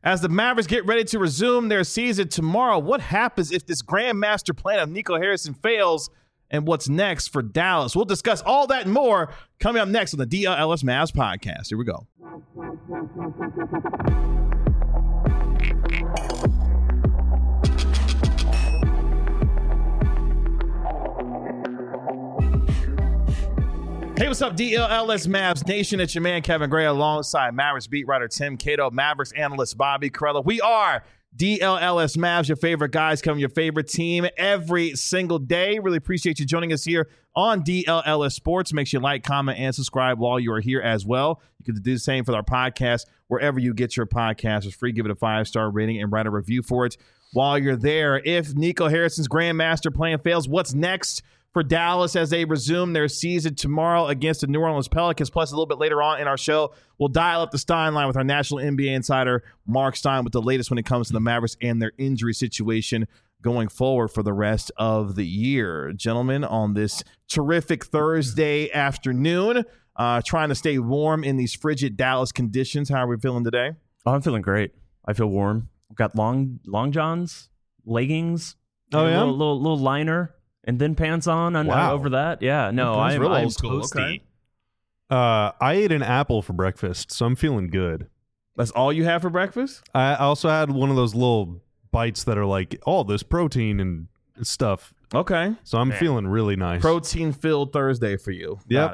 As the Mavericks get ready to resume their season tomorrow, what happens if this grandmaster plan of Nico Harrison fails, and what's next for Dallas? We'll discuss all that and more coming up next on the DLLS Mavs podcast. Here we go. Hey, what's up, DLLS Mavs Nation? It's your man, Kevin Gray, alongside Mavericks beat writer Tim Cato, Mavericks analyst Bobby Carella. We are DLLS Mavs, your favorite guys covering your favorite team every single day. Really appreciate you joining us here on DLLS Sports. Make sure you like, comment, and subscribe while you are here as well. You can do the same for our podcast wherever you get your podcast. It's free. Give it a 5-star rating and write a review for it while you're there. If Nico Harrison's grandmaster plan fails, what's next for Dallas as they resume their season tomorrow against the New Orleans Pelicans? Plus, a little bit later on in our show, we'll dial up the Stein line with our national NBA insider, Mark Stein, with the latest when it comes to the Mavericks and their injury situation going forward for the rest of the year. Gentlemen, on this terrific Thursday afternoon, trying to stay warm in these frigid Dallas conditions. How are we feeling today? Oh, I'm feeling great. I feel warm. I've got long johns, leggings, a little liner, and then pants on over that. Yeah, no, I'm toasty. Okay. I ate an apple for breakfast, so I'm feeling good. That's all you have for breakfast? I also had one of those little bites that are like, oh, there's protein and stuff. Okay. So I'm feeling really nice. Protein-filled Thursday for you. Yep. Got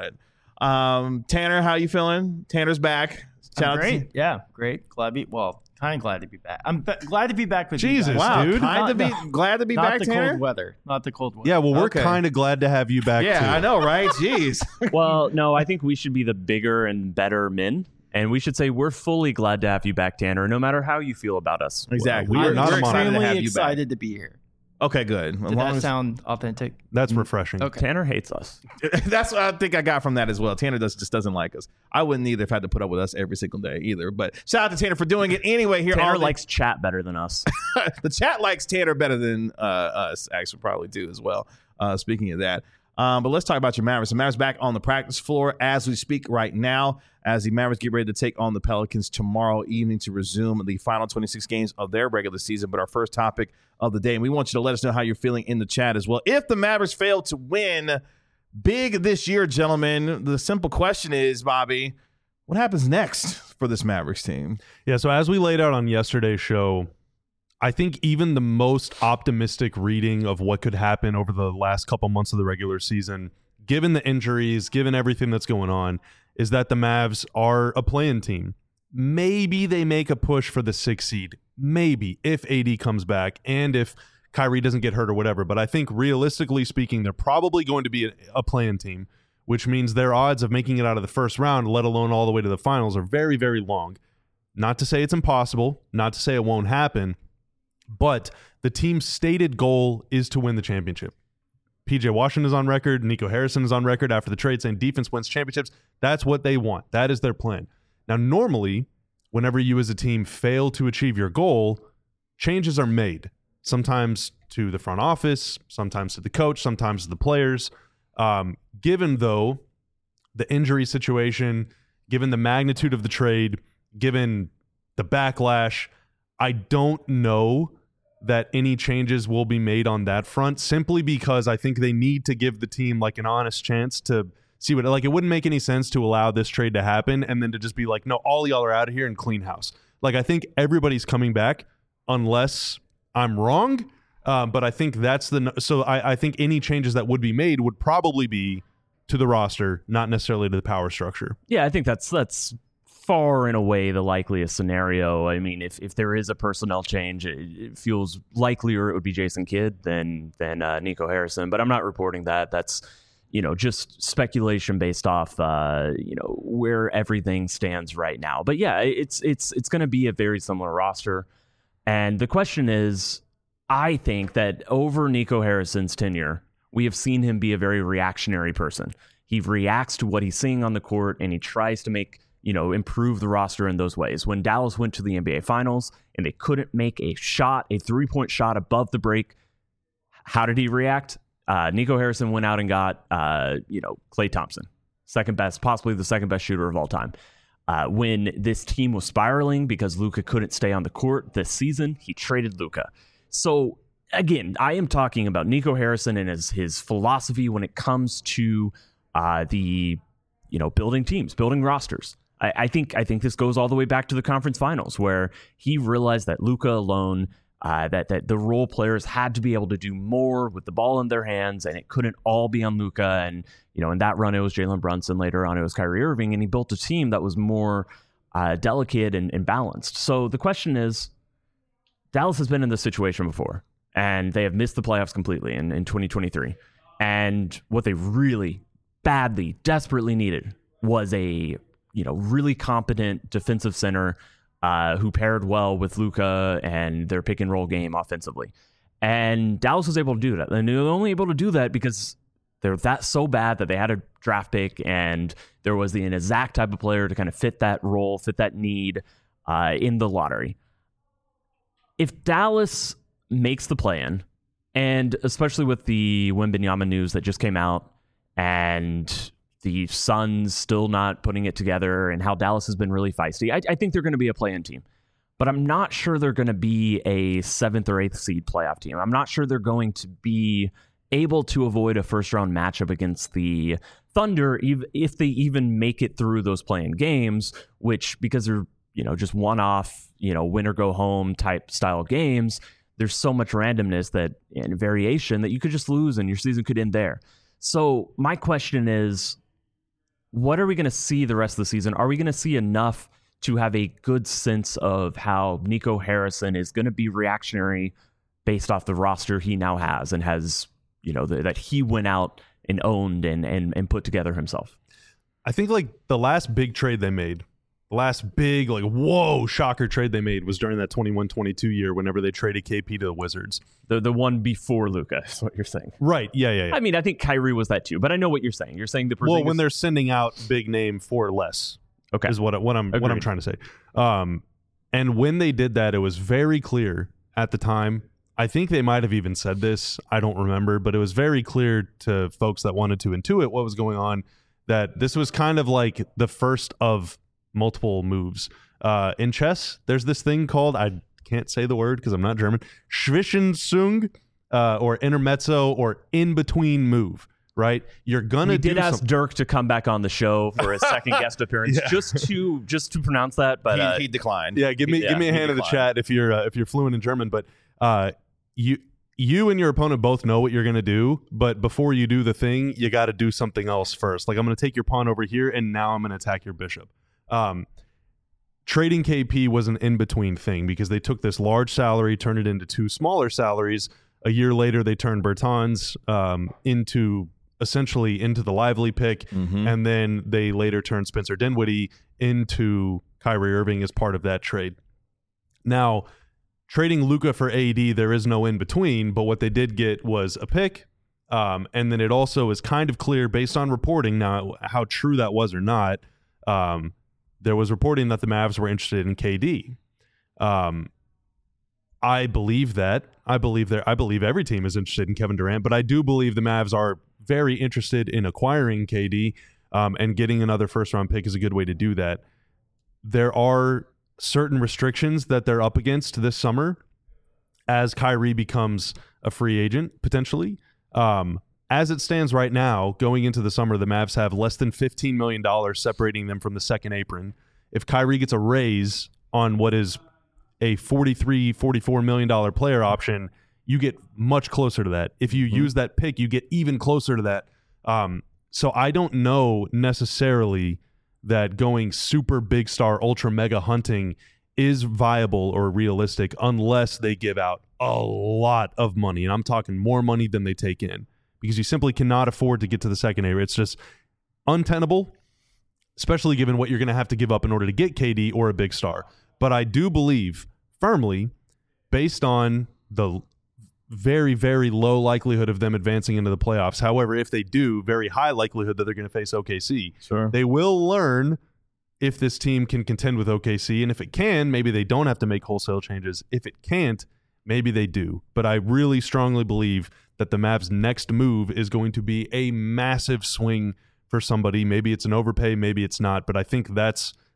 it. Tanner, how you feeling? Tanner's back. I'm great. Yeah, great. Kind of glad to be back. I'm glad to be back with Jesus, you guys. Wow, dude. glad to be back, Tanner? Not the cold weather. Yeah, well, we're Okay. kind of glad to have you back, too. Yeah, I know, right? Jeez. Well, no, I think we should be the bigger and better men. And we should say we're fully glad to have you back, Tanner, no matter how you feel about us. Exactly. We are not We're a monolith. excited to have Extremely you back. excited to be here. Okay, good. As Did long that as- sound authentic? That's refreshing. Okay. Tanner hates us. That's what I think I got from that as well. Tanner just doesn't like us. I wouldn't either if I had to put up with us every single day either. But shout out to Tanner for doing it anyway. Here, Tanner on the- likes chat better than us. the chat likes Tanner better than us. Actually, probably do as well. Speaking of that. But let's talk about your Mavericks. The Mavericks back on the practice floor as we speak right now, as the Mavericks get ready to take on the Pelicans tomorrow evening to resume the final 26 games of their regular season. But our first topic of the day, and we want you to let us know how you're feeling in the chat as well. If the Mavericks fail to win big this year, gentlemen, the simple question is, Bobby, what happens next for this Mavericks team? Yeah, so as we laid out on yesterday's show, I think even the most optimistic reading of what could happen over the last couple months of the regular season, given the injuries, given everything that's going on, is that the Mavs are a play-in team. Maybe they make a push for the 6th seed. Maybe, if AD comes back and if Kyrie doesn't get hurt or whatever. But I think realistically speaking, they're probably going to be a play-in team, which means their odds of making it out of the first round, let alone all the way to the finals, are very, very long. Not to say it's impossible, not to say it won't happen, but the team's stated goal is to win the championship. PJ Washington is on record. Nico Harrison is on record after the trade saying defense wins championships. That's what they want. That is their plan. Now, normally, whenever you as a team fail to achieve your goal, changes are made. Sometimes to the front office, sometimes to the coach, sometimes to the players. Given, though, the injury situation, given the magnitude of the trade, given the backlash, I don't know that any changes will be made on that front, simply because I think they need to give the team like an honest chance to see what, like, it wouldn't make any sense to allow this trade to happen and then to just be like, no, all y'all are out of here and clean house. Like, I think everybody's coming back unless I'm wrong. But I think that's I think any changes that would be made would probably be to the roster, not necessarily to the power structure. Yeah, I think that's far and away the likeliest scenario. I mean, if there is a personnel change, it feels likelier it would be Jason Kidd than Nico Harrison. But I'm not reporting that. That's just speculation based off where everything stands right now. But yeah, it's going to be a very similar roster. And the question is, I think that over Nico Harrison's tenure, we have seen him be a very reactionary person. He reacts to what he's seeing on the court, and he tries to improve the roster in those ways. When Dallas went to the NBA Finals and they couldn't make a 3-point shot above the break, how did he react? Nico Harrison went out and got, Klay Thompson, second best, possibly the second best shooter of all time. When this team was spiraling because Luka couldn't stay on the court this season, he traded Luka. So again, I am talking about Nico Harrison and his philosophy when it comes to building teams, building rosters. I think this goes all the way back to the conference finals, where he realized that Luka alone, that the role players had to be able to do more with the ball in their hands, and it couldn't all be on Luka. And in that run, it was Jalen Brunson. Later on, it was Kyrie Irving, and he built a team that was more delicate and balanced. So the question is, Dallas has been in this situation before, and they have missed the playoffs completely in 2023. And what they really badly, desperately needed was a really competent defensive center who paired well with Luka and their pick and roll game offensively. And Dallas was able to do that. And they were only able to do that because they're that so bad that they had a draft pick, and there was an exact type of player to kind of fit that role, fit that need in the lottery. If Dallas makes the play-in, and especially with the Wembanyama news that just came out, and the Suns still not putting it together, and how Dallas has been really feisty, I think they're going to be a play-in team. But I'm not sure they're going to be a 7th or 8th seed playoff team. I'm not sure they're going to be able to avoid a first-round matchup against the Thunder, if they even make it through those play-in games, which, because they're just one-off, win or go home type style games, there's so much randomness and variation that you could just lose and your season could end there. So my question is, what are we going to see the rest of the season? Are we going to see enough to have a good sense of how Nico Harrison is going to be reactionary based off the roster he now has and has, that he went out and owned and put together himself? I think the last big trade they made, the last big, whoa, shocker trade they made was during that 21-22 year whenever they traded KP to the Wizards. The one before Luka is what you're saying. Right, yeah. I mean, I think Kyrie was that too, but I know what you're saying. You're saying Well, when they're sending out big name for less, okay, is what I'm trying to say. And when they did that, it was very clear at the time. I think they might have even said this, I don't remember, but it was very clear to folks that wanted to intuit what was going on that this was kind of like the first of multiple moves. In chess, there's this thing called, I can't say the word because I'm not German, Zwischenzug, or intermezzo, or in-between move, right? You're gonna We did ask Dirk to come back on the show for his second guest appearance, just to pronounce that, but he declined. Yeah, give me a hand in the chat if you're fluent in German. But you and your opponent both know what you're gonna do, but before you do the thing, you got to do something else first. Like, I'm gonna take your pawn over here, and now I'm gonna attack your bishop. Trading KP was an in-between thing because they took this large salary, turned it into 2 smaller salaries. A year later, they turned Bertans into the Lively pick, and then they later turned Spencer Dinwiddie into Kyrie Irving as part of that trade. Now, trading Luka for AD, there is no in-between, but what they did get was a pick, and then it also is kind of clear, based on reporting, now how true that was or not, there was reporting that the Mavs were interested in KD. I believe that. I believe every team is interested in Kevin Durant, but I do believe the Mavs are very interested in acquiring KD, and getting another first-round pick is a good way to do that. There are certain restrictions that they're up against this summer as Kyrie becomes a free agent, potentially. As it stands right now, going into the summer, the Mavs have less than $15 million separating them from the second apron. If Kyrie gets a raise on what is a $43, $44 million player option, you get much closer to that. If you use that pick, you get even closer to that. So I don't know necessarily that going super big star, ultra mega hunting is viable or realistic unless they give out a lot of money. And I'm talking more money than they take in, because you simply cannot afford to get to the second area. It's just untenable, especially given what you're going to have to give up in order to get KD or a big star. But I do believe firmly, based on the very, very low likelihood of them advancing into the playoffs. However, if they do, very high likelihood that they're going to face OKC. Sure. They will learn if this team can contend with OKC. And if it can, maybe they don't have to make wholesale changes. If it can't, maybe they do. But I really strongly believe that the Mavs' next move is going to be a massive swing for somebody. Maybe it's an overpay, maybe it's not. But I think that's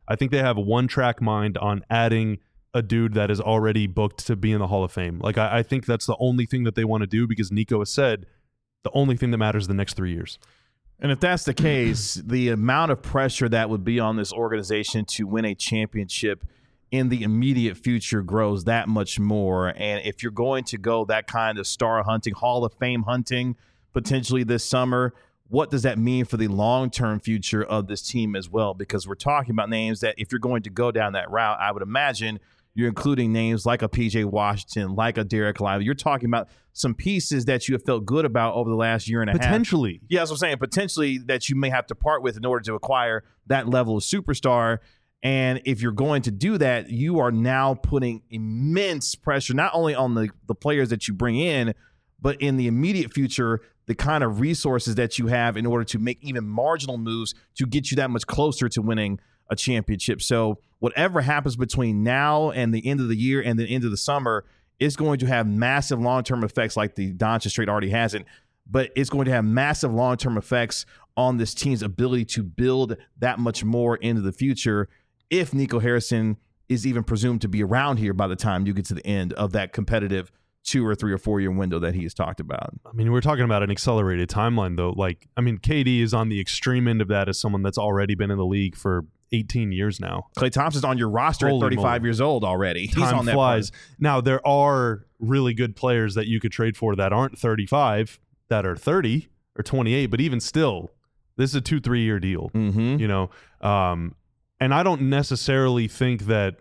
I think they have a one-track mind on adding a dude that is already booked to be in the Hall of Fame. Like, I think that's the only thing that they want to do because Nico has said the only thing that matters the next 3 years. And if that's the case, the amount of pressure that would be on this organization to win a championship in the immediate future grows that much more. And if you're going to go that kind of star hunting, Hall of Fame hunting, potentially this summer, what does that mean for the long-term future of this team as well? Because we're talking about names that if you're going to go down that route, I would imagine you're including names like a PJ Washington, like a Derek Lively. You're talking about some pieces that you have felt good about over the last year and a half. Potentially. Yeah, that's what I'm saying. Potentially that you may have to part with in order to acquire that level of superstar. And if you're going to do that, you are now putting immense pressure, not only on the players that you bring in, but in the immediate future, the kind of resources that you have in order to make even marginal moves to get you that much closer to winning a championship. So whatever happens between now and the end of the year and the end of the summer is going to have massive long-term effects like the Doncic trade already hasn't, but it's going to have massive long-term effects on this team's ability to build that much more into the future if Nico Harrison is even presumed to be around here by the time you get to the end of that competitive 2 or 3 or 4 year window that he has talked about. I mean, we're talking about an accelerated timeline, though. Like, I mean, KD is on the extreme end of that as someone that's already been in the league for 18 years now. Klay Thompson's on your roster Holy at 35 moly. years old already. He's Time on that flies. part. Now, there are really good players that you could trade for that aren't 35, that are 30 or 28, but even still, this is a 2-3 year deal. Mm-hmm. You know, and I don't necessarily think that.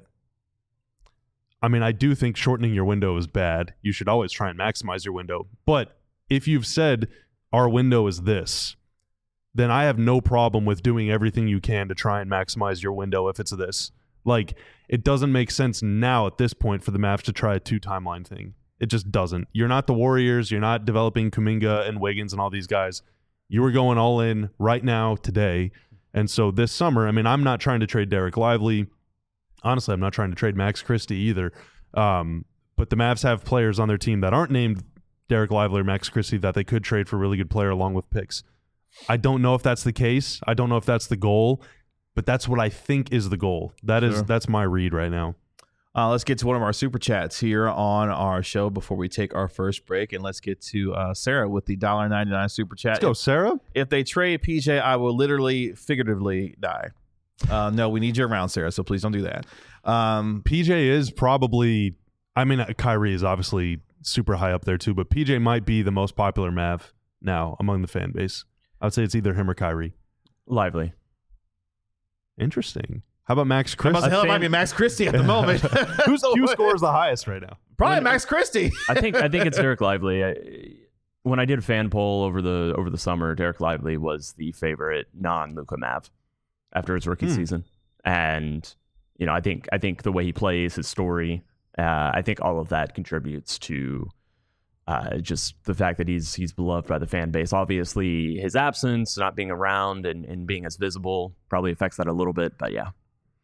I mean, I do think shortening your window is bad. You should always try and maximize your window. But if you've said our window is this, then I have no problem with doing everything you can to try and maximize your window if it's this. Like, it doesn't make sense now at this point for the Mavs to try a 2-timeline thing. It just doesn't. You're not the Warriors. You're not developing Kuminga and Wiggins and all these guys. You are going all in right now, today. And so this summer, I mean, I'm not trying to trade Derek Lively. Honestly, I'm not trying to trade Max Christie either. But the Mavs have players on their team that aren't named Derek Lively or Max Christie that they could trade for a really good player along with picks. I don't know if that's the case. I don't know if that's the goal, but that's what I think is the goal. That's my read right now. Let's get to one of our super chats here on our show before we take our first break. And let's get to Sarah with the $1.99 super chat. Let's go, Sarah. If they trade PJ, I will literally figuratively die. No, we need you around, Sarah, so please don't do that. PJ is probably, I mean, Kyrie is obviously super high up there too, but PJ might be the most popular Mav now among the fan base. I would say it's either him or Kyrie. Lively. Interesting. How about Max Christie? It might be Max Christie at the moment. Whose Q score is the highest right now? Probably Max Christie. I think it's Derek Lively. When I did a fan poll over the summer, Derek Lively was the favorite non-Luka Mav after his rookie season. And, you know, I think the way he plays, his story, I think all of that contributes to just the fact that he's beloved by the fan base. Obviously, his absence, not being around and being as visible probably affects that a little bit. But yeah,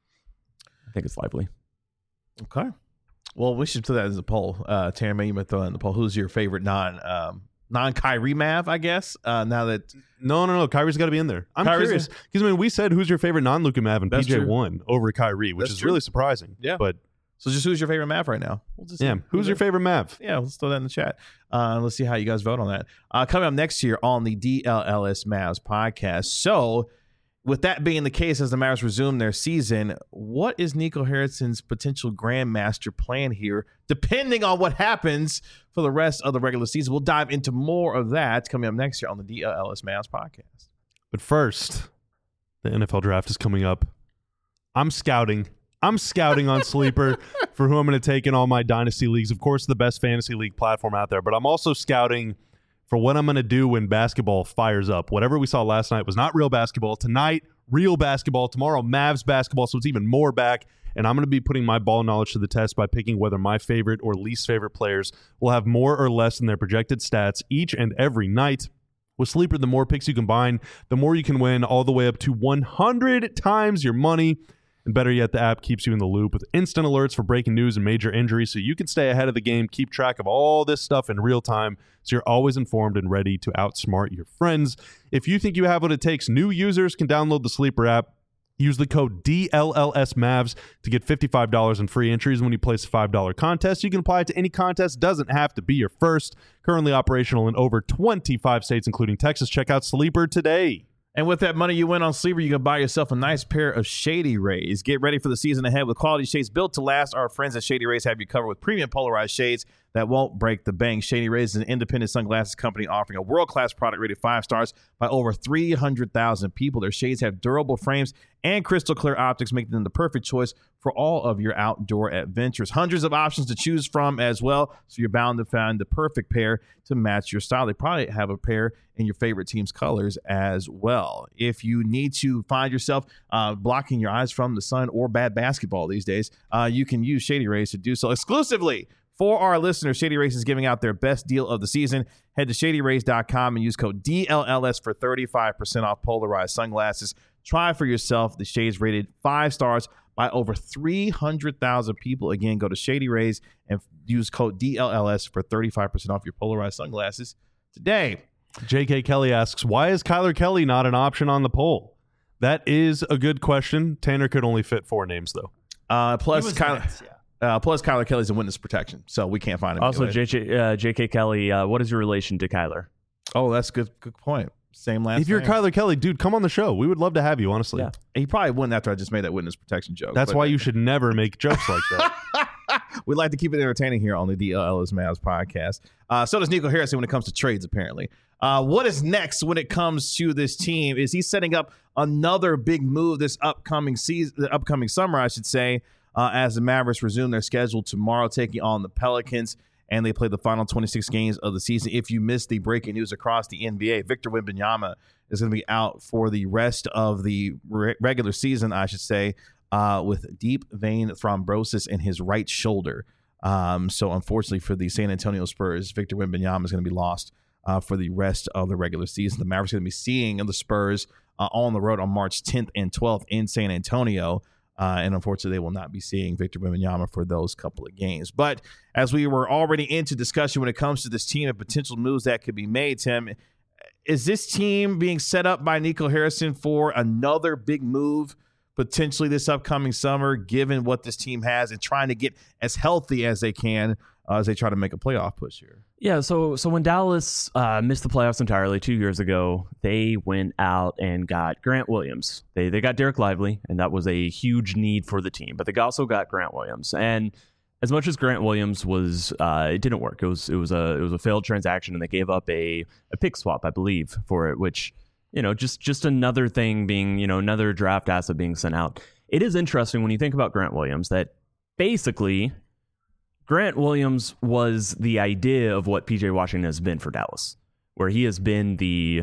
I think it's Lively. Okay. Well, we should put that as a poll. Tammy, you might throw that in the poll. Who's your favorite non-Kyrie Mav, I guess, now that... No. Kyrie's got to be in there. I'm Kyrie's curious. Because, I mean, we said who's your favorite non-Luka Mav, and That's PJ true. won over Kyrie, which That's is true. really surprising. Yeah. But, So just who's your favorite Mav right now? We'll just yeah, who's your favorite Mav? Yeah, let's throw that in the chat. Let's see how you guys vote on that. Coming up next year on the DLLS Mavs podcast. So, with that being the case, as the Mavs resume their season, what is Nico Harrison's potential grandmaster plan here, depending on what happens for the rest of the regular season? We'll dive into more of that coming up next year on the DLLS Mavs podcast. But first, the NFL draft is coming up. I'm scouting on Sleeper for who I'm going to take in all my dynasty leagues. Of course, the best fantasy league platform out there. But I'm also scouting for what I'm going to do when basketball fires up. Whatever we saw last night was not real basketball. Tonight, real basketball. Tomorrow, Mavs basketball. So it's even more back. And I'm going to be putting my ball knowledge to the test by picking whether my favorite or least favorite players will have more or less in their projected stats each and every night. With Sleeper, the more picks you combine, the more you can win, all the way up to 100 times your money. And better yet, the app keeps you in the loop with instant alerts for breaking news and major injuries, so you can stay ahead of the game, keep track of all this stuff in real time, so you're always informed and ready to outsmart your friends. If you think you have what it takes, new users can download the Sleeper app Use the code DLLSMavs to get $55 in free entries when you place a $5 contest. You can apply it to any contest. Doesn't have to be your first. Currently operational in over 25 states, including Texas. Check out Sleeper today. And with that money you win on Sleeper, you can buy yourself a nice pair of Shady Rays. Get ready for the season ahead with quality shades built to last. Our friends at Shady Rays have you covered with premium polarized shades that won't break the bank. Shady Rays is an independent sunglasses company offering a world-class product rated 5 stars by over 300,000 people. Their shades have durable frames and crystal clear optics, making them the perfect choice for all of your outdoor adventures. Hundreds of options to choose from as well, so you're bound to find the perfect pair to match your style. They probably have a pair in your favorite team's colors as well. If you need to find yourself blocking your eyes from the sun or bad basketball these days, you can use Shady Rays to do so exclusively. For our listeners, Shady Rays is giving out their best deal of the season. Head to shadyrays.com and use code DLLS for 35% off polarized sunglasses. Try for yourself the shades rated 5 stars by over 300,000 people. Again, go to Shady Rays and use code DLLS for 35% off your polarized sunglasses today. J.K. Kelly asks, why is Kyler Kelly not an option on the poll? That is a good question. Tanner could only fit 4 names, though. Plus Kyler Kelly's in witness protection, so we can't find him. Also, J.K. Kelly, what is your relation to Kyler? Oh, that's good point. Same last name. If you're Kyler Kelly, dude, come on the show. We would love to have you, honestly. Yeah. He probably wouldn't after I just made that witness protection joke. That's why you should never make jokes like that. We like to keep it entertaining here on the DLLS Mavs podcast. So does Nico Harrison when it comes to trades, apparently. What is next when it comes to this team? Is he setting up another big move this upcoming summer, I should say, as the Mavericks resume their schedule tomorrow, taking on the Pelicans, and they play the final 26 games of the season. If you missed the breaking news across the NBA, Victor Wembanyama is going to be out for the rest of the regular season, I should say, with deep vein thrombosis in his right shoulder. So unfortunately for the San Antonio Spurs, Victor Wembanyama is going to be lost for the rest of the regular season. The Mavericks are going to be seeing the Spurs on the road on March 10th and 12th in San Antonio. And unfortunately, they will not be seeing Victor Wembanyama for those couple of games. But as we were already into discussion when it comes to this team and potential moves that could be made, Tim, is this team being set up by Nico Harrison for another big move potentially this upcoming summer, given what this team has and trying to get as healthy as they can as they try to make a playoff push here? Yeah, so when Dallas missed the playoffs entirely 2 years ago, they went out and got Grant Williams. They got Derek Lively, and that was a huge need for the team. But they also got Grant Williams, and as much as Grant Williams was, it didn't work. It was a failed transaction, and they gave up a pick swap, I believe, for it, which, just another thing being, another draft asset being sent out. It is interesting when you think about Grant Williams that basically Grant Williams was the idea of what PJ Washington has been for Dallas, where he has been the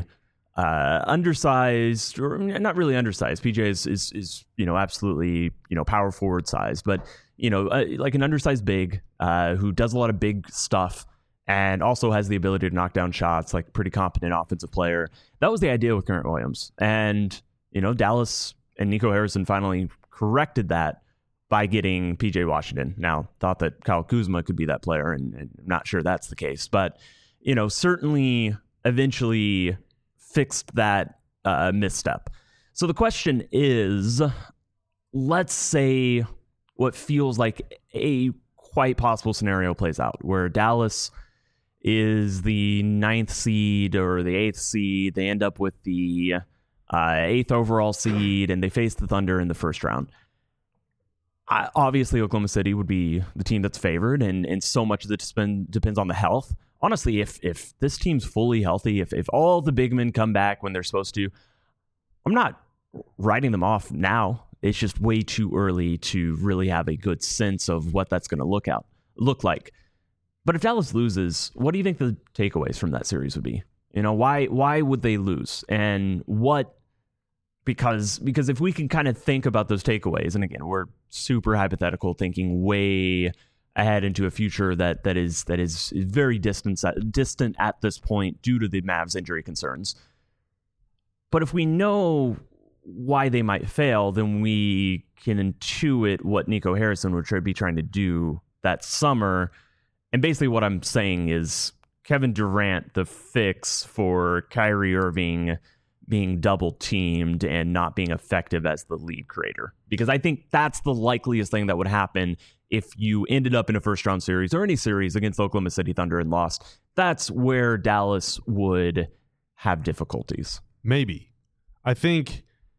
undersized, or not really undersized. PJ is absolutely power forward size, but like an undersized big who does a lot of big stuff and also has the ability to knock down shots, like pretty competent offensive player. That was the idea with Grant Williams, and Dallas and Nico Harrison finally corrected that by getting PJ Washington. Now, thought that Kyle Kuzma could be that player, and I'm not sure that's the case. But, certainly eventually fixed that misstep. So the question is, let's say what feels like a quite possible scenario plays out, where Dallas is the 9th seed or the 8th seed. They end up with the 8th overall seed, and they face the Thunder in the first round. Obviously, Oklahoma City would be the team that's favored, and so much of it depends on the health. Honestly, if this team's fully healthy, if all the big men come back when they're supposed to, I'm not writing them off now. It's just way too early to really have a good sense of what that's going to look like. But if Dallas loses, what do you think the takeaways from that series would be? Why would they lose? And what? Because if we can kind of think about those takeaways, and again, we're super hypothetical, thinking way ahead into a future that is very distant at this point due to the Mavs injury concerns. But if we know why they might fail, then we can intuit what Nico Harrison would be trying to do that summer. And basically what I'm saying is Kevin Durant, the fix for Kyrie Irving, being double teamed and not being effective as the lead creator. Because I think that's the likeliest thing that would happen if you ended up in a first round series or any series against Oklahoma City Thunder and lost. That's where Dallas would have difficulties. Maybe. I think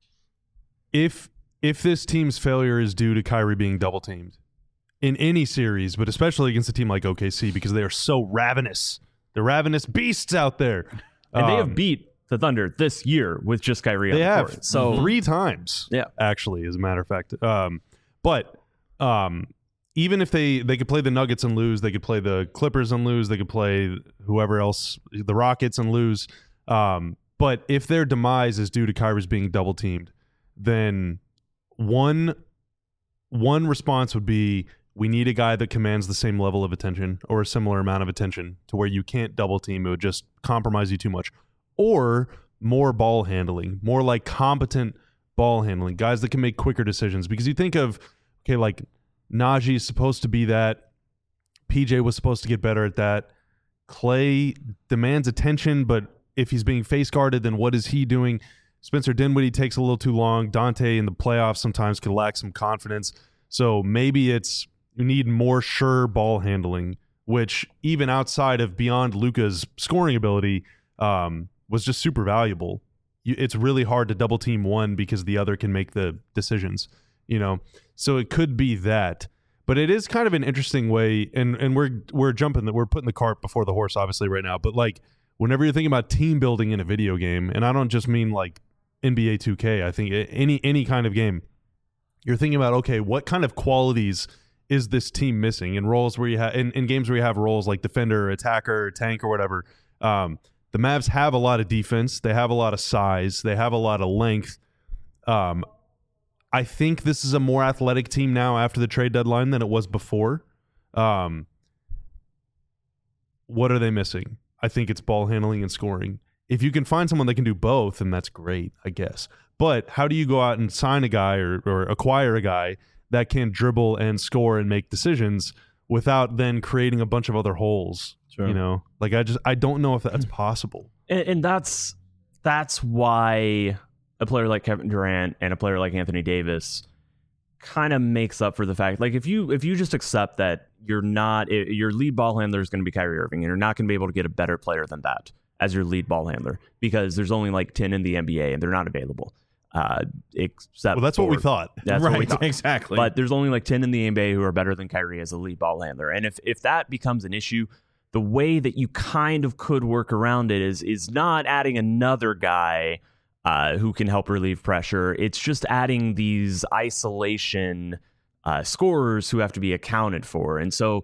if this team's failure is due to Kyrie being double teamed in any series, but especially against a team like OKC because they are so ravenous. They're ravenous beasts out there. And they have beat the Thunder this year with just Kyrie on the court. Have so 3 times, actually, as a matter of fact. But even if they could play the Nuggets and lose, they could play the Clippers and lose, they could play whoever else, the Rockets and lose. But if their demise is due to Kyrie's being double teamed, then one response would be, we need a guy that commands the same level of attention or a similar amount of attention to where you can't double team. It would just compromise you too much. Or more ball handling, more like competent ball handling, guys that can make quicker decisions. Because you think of, okay, like Najee is supposed to be that. PJ was supposed to get better at that. Clay demands attention, but if he's being face guarded, then what is he doing? Spencer Dinwiddie takes a little too long. Dante in the playoffs sometimes can lack some confidence. So maybe it's you need more sure ball handling, which even outside of beyond Luka's scoring ability was just super valuable. It's really hard to double team one because the other can make the decisions, So it could be that. But it is kind of an interesting way, and we're putting the cart before the horse obviously right now, but like whenever you're thinking about team building in a video game, and I don't just mean like NBA 2K, I think any kind of game, you're thinking about, okay, what kind of qualities is this team missing in roles where you have in games where you have roles like defender, attacker, tank, or whatever. The Mavs have a lot of defense, they have a lot of size, they have a lot of length. I think this is a more athletic team now after the trade deadline than it was before. What are they missing? I think it's ball handling and scoring. If you can find someone that can do both, then that's great, I guess. But how do you go out and sign a guy or acquire a guy that can dribble and score and make decisions without then creating a bunch of other holes? Sure. Like I don't know if that's possible. And that's why a player like Kevin Durant and a player like Anthony Davis kind of makes up for the fact, like if you just accept that your lead ball handler is going to be Kyrie Irving, and you're not going to be able to get a better player than that as your lead ball handler because there's only like 10 in the NBA and they're not available. That's what we thought. That's right, what we thought. Exactly. But there's only like 10 in the NBA who are better than Kyrie as a lead ball handler. And if that becomes an issue, the way that you kind of could work around it is not adding another guy who can help relieve pressure. It's just adding these isolation scorers who have to be accounted for. And so,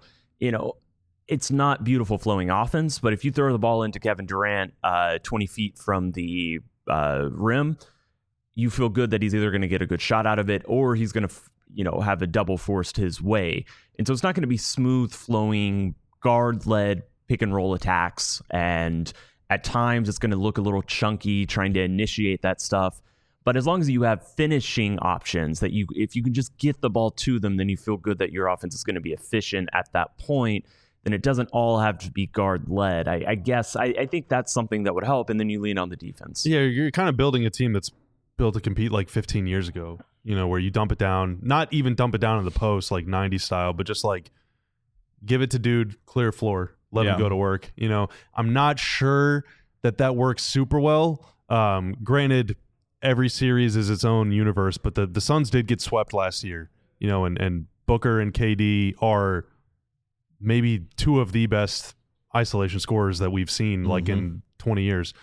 it's not beautiful flowing offense, but if you throw the ball into Kevin Durant 20 feet from the rim, you feel good that he's either going to get a good shot out of it or he's going to, have a double forced his way. And so it's not going to be smooth flowing, guard-led pick and roll attacks. And at times it's going to look a little chunky trying to initiate that stuff. But as long as you have finishing options that if you can just get the ball to them, then you feel good that your offense is going to be efficient at that point. Then it doesn't all have to be guard-led. I guess I think that's something that would help. And then you lean on the defense. Yeah, you're kind of building a team that's built to compete like 15 years ago, where you dump it down, not even dump it down in the post like 90s style, but just like give it to dude, clear floor, let him go to work. I'm not sure that works super well. Granted, every series is its own universe, but the Suns did get swept last year, and Booker and KD are maybe two of the best isolation scorers that we've seen like in 20 years.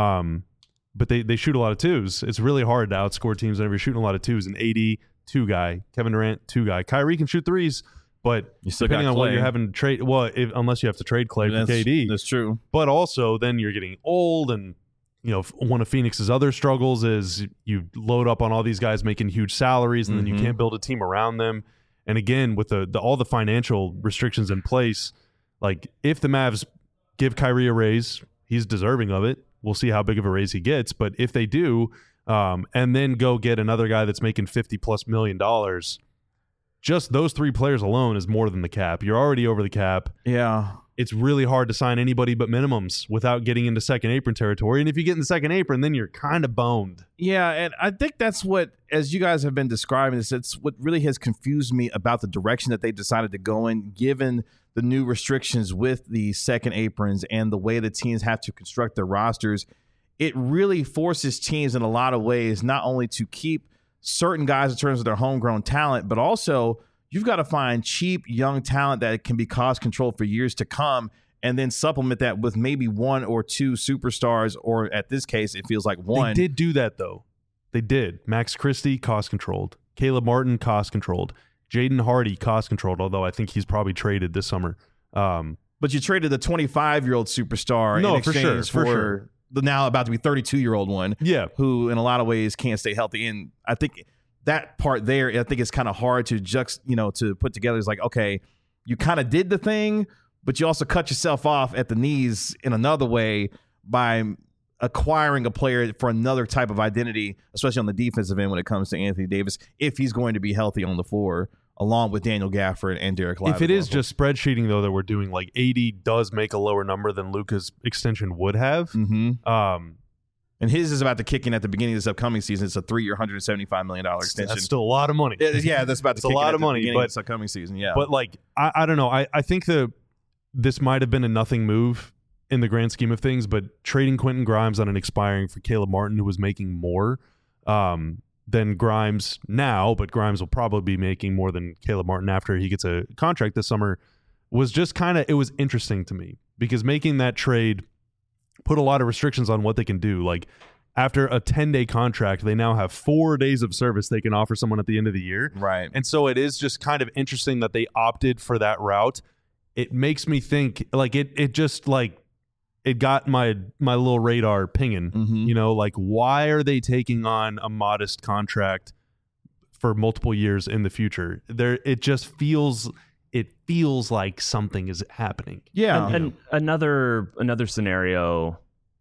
But they shoot a lot of twos. It's really hard to outscore teams whenever you're shooting a lot of twos. And AD, 2 guy. Kevin Durant, 2 guy. Kyrie can shoot threes, but you still depending got on Clay. what you're having to trade, unless you have to trade Clay for KD. That's true. But also then you're getting old, and one of Phoenix's other struggles is you load up on all these guys making huge salaries, and then you can't build a team around them. And again, with all the financial restrictions in place, like if the Mavs give Kyrie a raise, he's deserving of it. We'll see how big of a raise he gets. But if they do, and then go get another guy that's making $50+ million, just those 3 players alone is more than the cap. You're already over the cap. Yeah. it's really hard to sign anybody but minimums without getting into second apron territory. And if you get in the second apron, then you're kind of boned. Yeah, and I think that's what, as you guys have been describing this, it's what really has confused me about the direction that they decided to go in, given the new restrictions with the second aprons and the way the teams have to construct their rosters. It really forces teams in a lot of ways not only to keep certain guys in terms of their homegrown talent, but also you've got to find cheap young talent that can be cost controlled for years to come, and then supplement that with maybe one or two superstars, or at this case, it feels like one. They did do that, though. They did. Max Christie, cost controlled. Caleb Martin, cost controlled. Jaden Hardy, cost controlled, although I think he's probably traded this summer. But you traded the 25-year-old superstar in exchange for the now about to be 32-year-old one, who in a lot of ways can't stay healthy. And I think that part there, I think it's kind of hard to to put together. It's like, okay, you kind of did the thing, but you also cut yourself off at the knees in another way by acquiring a player for another type of identity, especially on the defensive end when it comes to Anthony Davis, if he's going to be healthy on the floor, along with Daniel Gafford and Derek Lively. If it is just spreadsheeting, though, that we're doing, like 80 does make a lower number than Luka's extension would have. Mm-hmm. And his is about to kick in at the beginning of this upcoming season. It's a 3-year, $175 million extension. That's still a lot of money. Yeah, that's about to kick in at the beginning of this upcoming season. Yeah, but like I don't know. I think this might have been a nothing move in the grand scheme of things, but trading Quentin Grimes on an expiring for Caleb Martin, who was making more than Grimes now, but Grimes will probably be making more than Caleb Martin after he gets a contract this summer, was just it was interesting to me, because making that trade put a lot of restrictions on what they can do. Like, after a 10-day contract, they now have 4 days of service they can offer someone at the end of the year. Right. And so it is just kind of interesting that they opted for that route. It makes me think, like, it just, like, it got my little radar pinging. Mm-hmm. Like, why are they taking on a modest contract for multiple years in the future? It just feels like something is happening. Yeah. And another scenario,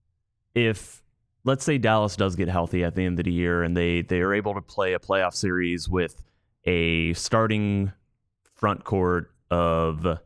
if let's say Dallas does get healthy at the end of the year and they are able to play a playoff series with a starting front court of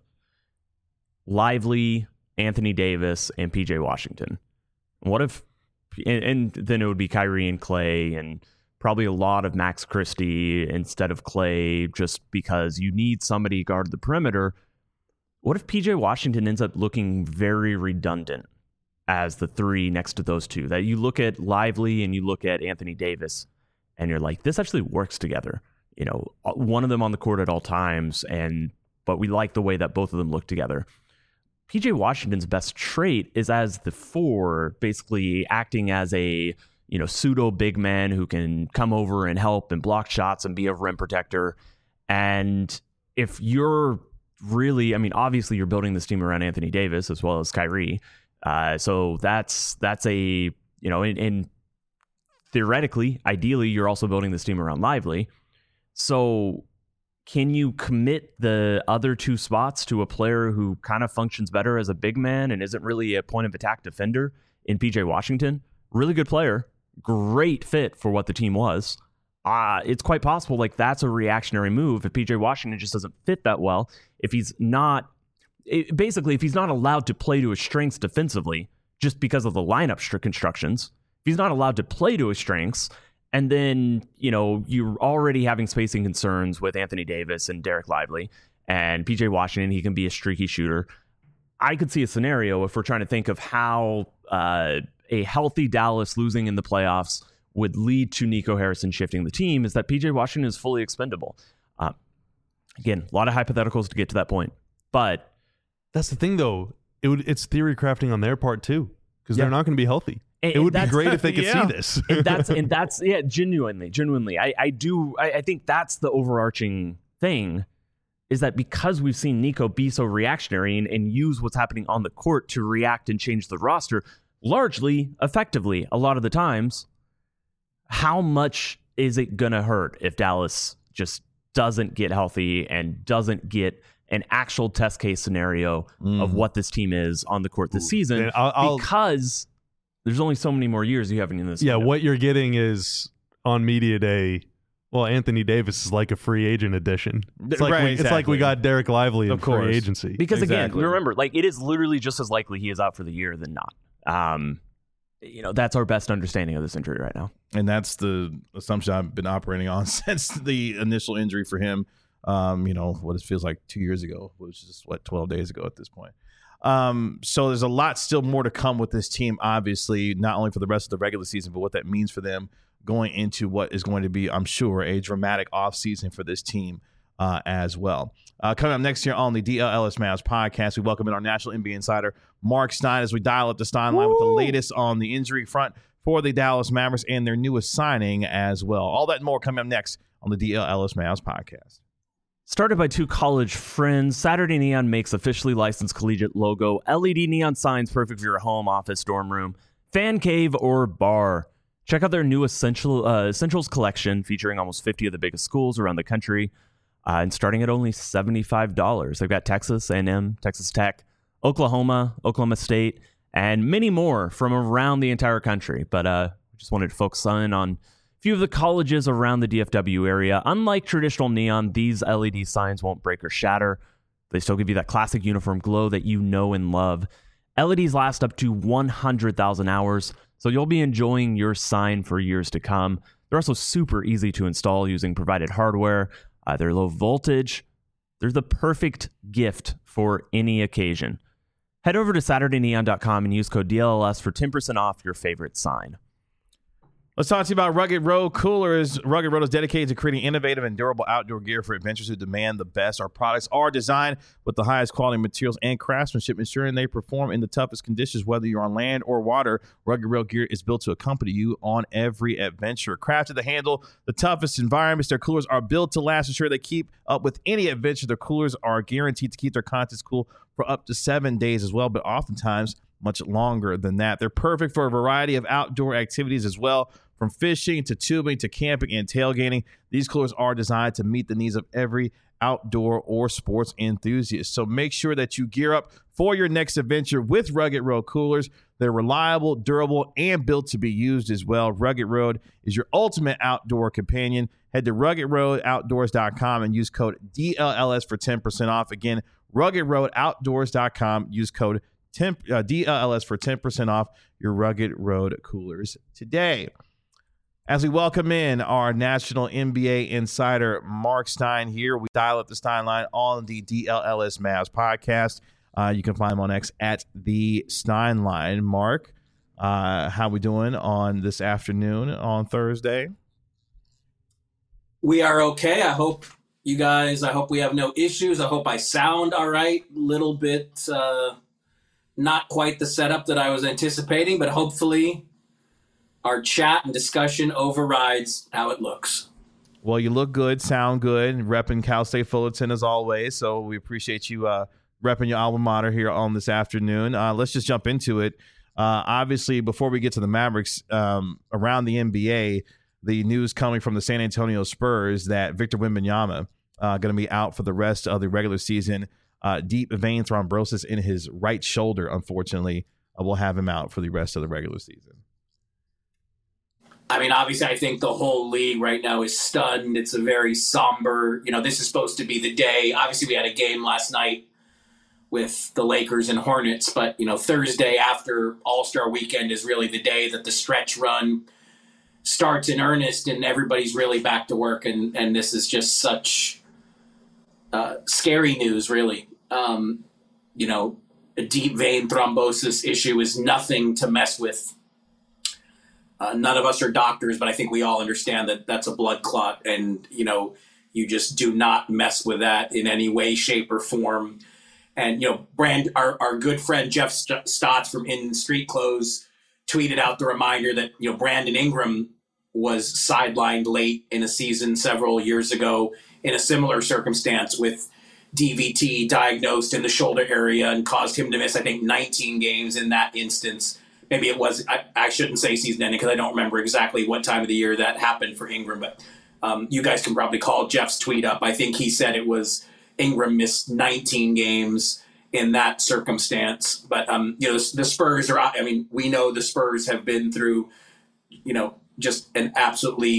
Lively, Anthony Davis, and PJ Washington. What if, and then it would be Kyrie and Clay, and probably a lot of Max Christie instead of Clay, just because you need somebody to guard the perimeter. What if PJ Washington ends up looking very redundant as the three next to those two? That you look at Lively and you look at Anthony Davis, and you're like, this actually works together. One of them on the court at all times, but we like the way that both of them look together. PJ Washington's best trait is as the four, basically acting as a pseudo big man who can come over and help and block shots and be a rim protector. And if you're really, obviously you're building this team around Anthony Davis as well as Kyrie. So that's a, and theoretically, ideally, you're also building this team around Lively. So can you commit the other two spots to a player who kind of functions better as a big man and isn't really a point of attack defender in PJ Washington? Really good player, great fit for what the team was. It's quite possible that's a reactionary move if PJ Washington just doesn't fit that well. If he's not allowed to play to his strengths defensively just because of the lineup constructions, if he's not allowed to play to his strengths, and then, you're already having spacing concerns with Anthony Davis and Derek Lively, and PJ Washington, he can be a streaky shooter. I could see a scenario, if we're trying to think of how a healthy Dallas losing in the playoffs would lead to Nico Harrison shifting the team, is that PJ Washington is fully expendable. Again, a lot of hypotheticals to get to that point. But that's the thing, though. It's theory crafting on their part, too, because they're not going to be healthy. It would be great if they could see this. and that's genuinely. I think that's the overarching thing, is that because we've seen Nico be so reactionary and use what's happening on the court to react and change the roster largely effectively a lot of the times, how much is it going to hurt if Dallas just doesn't get healthy and doesn't get an actual test case scenario of what this team is on the court this season? Because there's only so many more years you have in this. Yeah, what you're getting is on media day Well, Anthony Davis is like a free agent addition. It's like, Right, it's like we got Derek Lively in Of course. free agency. Because again, Exactly. remember, like it is literally just as likely he is out for the year than not. That's our best understanding of this injury right now. And that's the assumption I've been operating on since the initial injury for him. What it feels like 2 years ago, which is 12 days ago at this point. So there's a lot still more to come with this team, obviously, not only for the rest of the regular season, but what that means for them going into what is going to be, I'm sure, a dramatic offseason for this team as well. Coming up next year on the DLLS Mavs podcast, we welcome in our National NBA insider, Mark Stein, as we dial up the Stein line with the latest on the injury front for the Dallas Mavericks and their newest signing as well. All that and more coming up next on the DLLS Mavs podcast. Started by two college friends, Saturday Neon makes officially licensed collegiate logo, LED neon signs perfect for your home, office, dorm room, fan cave, or bar. Check out their new Essentials collection featuring almost 50 of the biggest schools around the country and starting at only $75. They've got Texas A&M, Texas Tech, Oklahoma, Oklahoma State, and many more from around the entire country. But just wanted to focus in on a few of the colleges around the DFW area. Unlike traditional neon, these LED signs won't break or shatter. They still give you that classic uniform glow that you know and love. LEDs last up to 100,000 hours, so you'll be enjoying your sign for years to come. They're also super easy to install using provided hardware. They're low voltage. They're the perfect gift for any occasion. Head over to SaturdayNeon.com and use code DLLS for 10% off your favorite sign. Let's talk to you about Rugged Road Coolers. Rugged Road is dedicated to creating innovative and durable outdoor gear for adventurers who demand the best. Our products are designed with the highest quality materials and craftsmanship, ensuring they perform in the toughest conditions, whether you're on land or water. Rugged Road gear is built to accompany you on every adventure. Crafted to handle the toughest environments, their coolers are built to last, ensure they keep up with any adventure. Their coolers are guaranteed to keep their contents cool for up to 7 days as well, but oftentimes much longer than that. They're perfect for a variety of outdoor activities as well. From fishing to tubing to camping and tailgating, these coolers are designed to meet the needs of every outdoor or sports enthusiast. So make sure that you gear up for your next adventure with Rugged Road Coolers. They're reliable, durable, and built to be used as well. Rugged Road is your ultimate outdoor companion. Head to RuggedRoadOutdoors.com and use code DLLS for 10% off. Again, RuggedRoadOutdoors.com. Use code DLLS for 10% off your Rugged Road Coolers today. As we welcome in our National NBA insider, Mark Stein here, we dial up the Stein line on the DLLS Mavs podcast. You can find him on X at the Stein line. Mark, how we doing on this afternoon on Thursday? We are okay. I hope we have no issues. I hope I sound all right. Little bit, not quite the setup that I was anticipating, but hopefully our chat and discussion overrides how it looks. Well, you look good, sound good, repping Cal State Fullerton as always. So we appreciate you repping your alma mater here on this afternoon. Let's just jump into it. Obviously, before we get to the Mavericks, around the NBA, the news coming from the San Antonio Spurs that Victor Wembanyama going to be out for the rest of the regular season. Deep vein thrombosis in his right shoulder, unfortunately, will have him out for the rest of the regular season. I mean, obviously, I think the whole league right now is stunned. It's a very somber, this is supposed to be the day. Obviously, we had a game last night with the Lakers and Hornets, but, Thursday after All-Star Weekend is really the day that the stretch run starts in earnest and everybody's really back to work. And this is just such scary news, really. A deep vein thrombosis issue is nothing to mess with. None of us are doctors, but I think we all understand that that's a blood clot. And, you just do not mess with that in any way, shape, or form. And, our good friend Jeff Stotts from In Street Clothes tweeted out the reminder that, Brandon Ingram was sidelined late in a season several years ago in a similar circumstance with DVT diagnosed in the shoulder area and caused him to miss, I think, 19 games in that instance. Maybe it was, I shouldn't say season ending because I don't remember exactly what time of the year that happened for Ingram, but you guys can probably call Jeff's tweet up. I think he said it was Ingram missed 19 games in that circumstance. But, the Spurs we know the Spurs have been through, just an absolutely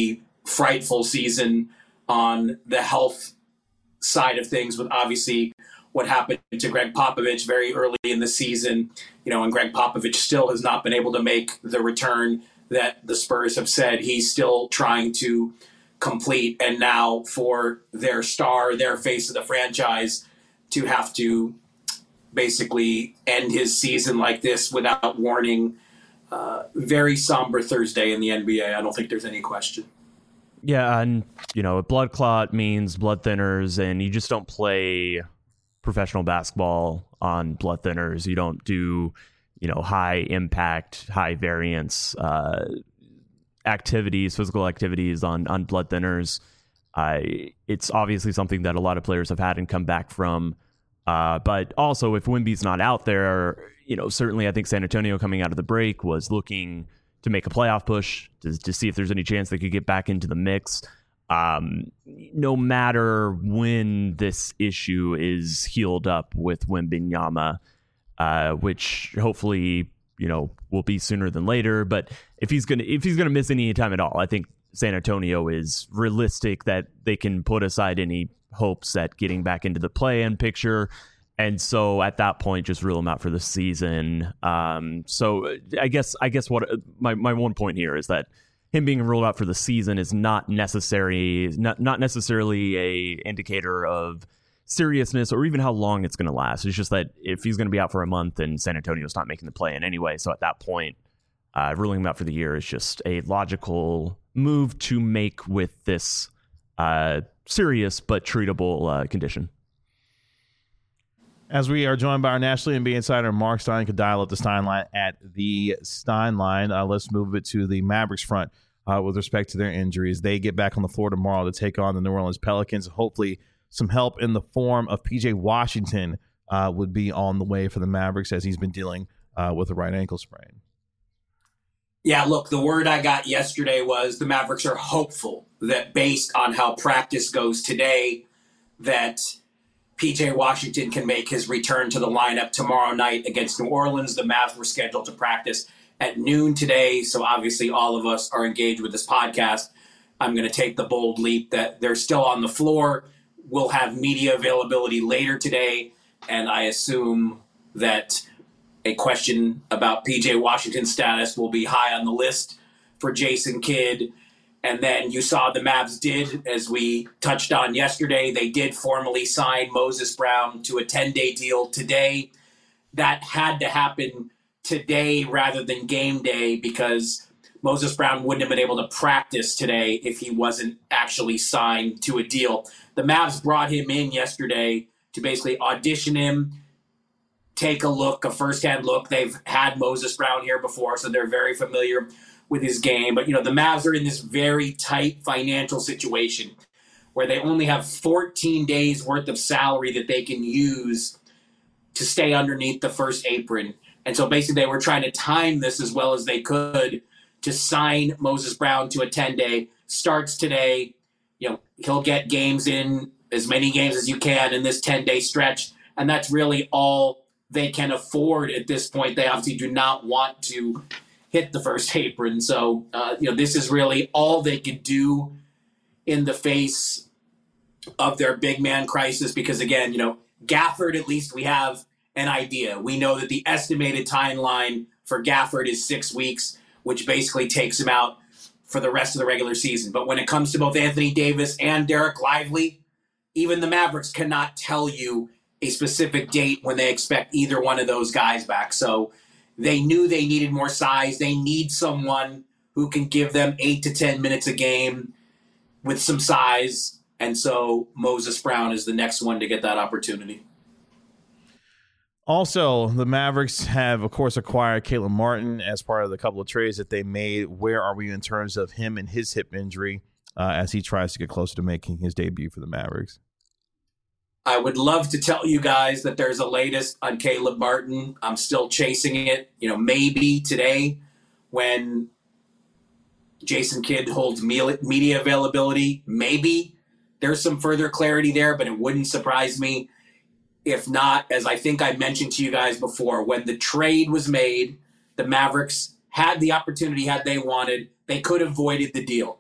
frightful season on the health side of things, with obviously what happened to Greg Popovich very early in the season, and Greg Popovich still has not been able to make the return that the Spurs have said he's still trying to complete. And now for their star, their face of the franchise, to have to basically end his season like this without warning. Very somber Thursday in the NBA. I don't think there's any question. Yeah, and a blood clot means blood thinners, and you just don't play professional basketball on blood thinners. You don't do, high impact, high variance activities, physical activities on blood thinners. It's obviously something that a lot of players have had and come back from. But also, if Wemby's not out there, certainly I think San Antonio coming out of the break was looking to make a playoff push to see if there's any chance they could get back into the mix. No matter when this issue is healed up with Wembanyama, which hopefully will be sooner than later. But if he's gonna miss any time at all, I think San Antonio is realistic that they can put aside any hopes at getting back into the play-in picture. And so at that point, just rule him out for the season. So I guess what my one point here is that him being ruled out for the season is not necessarily a indicator of seriousness or even how long it's going to last. It's just that if he's going to be out for a month, and San Antonio's not making the play-in anyway, so at that point, ruling him out for the year is just a logical move to make with this serious but treatable condition. As we are joined by our National NBA insider, Mark Stein, you can dial up the Stein line at the Stein line. Let's move it to the Mavericks front with respect to their injuries. They get back on the floor tomorrow to take on the New Orleans Pelicans. Hopefully some help in the form of P.J. Washington would be on the way for the Mavericks, as he's been dealing with a right ankle sprain. Yeah, look, the word I got yesterday was the Mavericks are hopeful that based on how practice goes today, that P.J. Washington can make his return to the lineup tomorrow night against New Orleans. The Mavs were scheduled to practice at noon today, so obviously all of us are engaged with this podcast. I'm going to take the bold leap that they're still on the floor. We'll have media availability later today, and I assume that a question about P.J. Washington's status will be high on the list for Jason Kidd. And then you saw the Mavs did, as we touched on yesterday, they did formally sign Moses Brown to a 10-day deal today. That had to happen today rather than game day, because Moses Brown wouldn't have been able to practice today if he wasn't actually signed to a deal. The Mavs brought him in yesterday to basically audition him, take a look, a first-hand look. They've had Moses Brown here before, so they're very familiar with his game. But, the Mavs are in this very tight financial situation where they only have 14 days worth of salary that they can use to stay underneath the first apron. And so basically they were trying to time this as well as they could to sign Moses Brown to a 10-day. Starts today. He'll get games in, as many games as you can in this 10-day stretch. And that's really all they can afford at this point. They obviously do not want to hit the first apron. So, this is really all they could do in the face of their big man crisis. Because again, Gafford, at least we have an idea. We know that the estimated timeline for Gafford is 6 weeks, which basically takes him out for the rest of the regular season. But when it comes to both Anthony Davis and Derek Lively, even the Mavericks cannot tell you a specific date when they expect either one of those guys back. So they knew they needed more size. They need someone who can give them 8 to 10 minutes a game with some size. And so Moses Brown is the next one to get that opportunity. Also, the Mavericks have, of course, acquired Caleb Martin as part of the couple of trades that they made. Where are we in terms of him and his hip injury as he tries to get closer to making his debut for the Mavericks? I would love to tell you guys that there's a latest on Caleb Martin. I'm still chasing it. Maybe today when Jason Kidd holds media availability, maybe there's some further clarity there, but it wouldn't surprise me. If not, as I think I mentioned to you guys before, when the trade was made, the Mavericks had the opportunity, had they wanted, they could have voided the deal.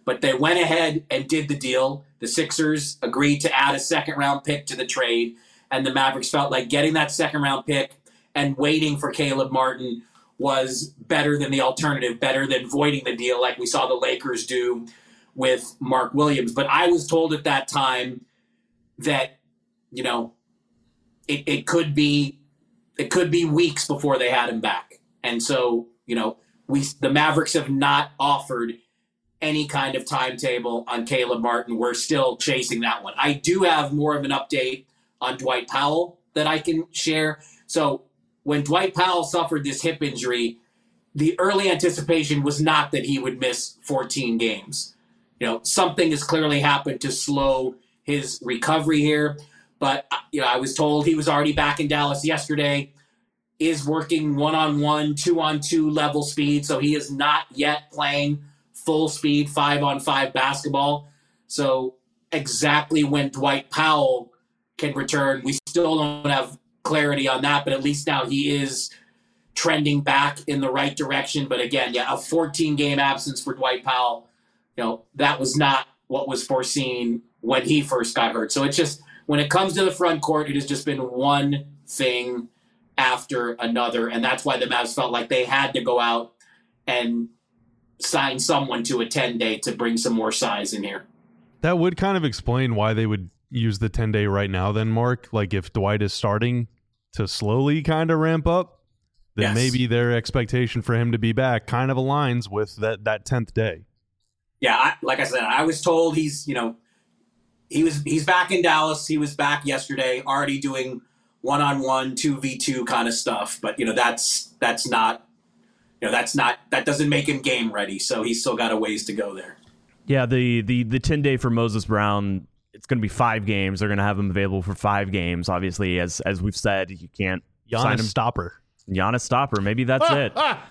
But they went ahead and did the deal. The Sixers agreed to add a second-round pick to the trade, and the Mavericks felt like getting that second-round pick and waiting for Caleb Martin was better than the alternative, better than voiding the deal like we saw the Lakers do with Mark Williams. But I was told at that time that, you know, it could be weeks before they had him back. And so, you know, the Mavericks have not offered any kind of timetable on Caleb Martin. We're still chasing that one. I do have more of an update on Dwight Powell that I can share. So when Dwight Powell suffered this hip injury, the early anticipation was not that he would miss 14 games. You know, something has clearly happened to slow his recovery here. But, you know, I was told he was already back in Dallas yesterday, is working 1-on-1, 2-on-2 level speed. So he is not yet playing full speed 5-on-5 basketball. So exactly when Dwight Powell can return, we still don't have clarity on that, but at least now he is trending back in the right direction. But again, yeah, a 14-game absence for Dwight Powell, you know, that was not what was foreseen when he first got hurt. So it's just, when it comes to the front court, it has just been one thing after another, and that's why the Mavs felt like they had to go out and sign someone to a 10-day to bring some more size in here. That would kind of explain why they would use the 10-day right now then, Mark. Like, if Dwight is starting to slowly kind of ramp up, then Yes. maybe their expectation for him to be back kind of aligns with that 10th day. Yeah, like I said, I was told he's back in Dallas. He was back yesterday, already doing 1-on-1, 2v2 kind of stuff. But, you know, that doesn't make him game ready. So he's still got a ways to go there. Yeah, the 10-day for Moses Brown, it's going to be 5 games. They're going to have him available for 5 games. Obviously, as we've said, you can't sign him. Giannis Stopper, maybe that's it.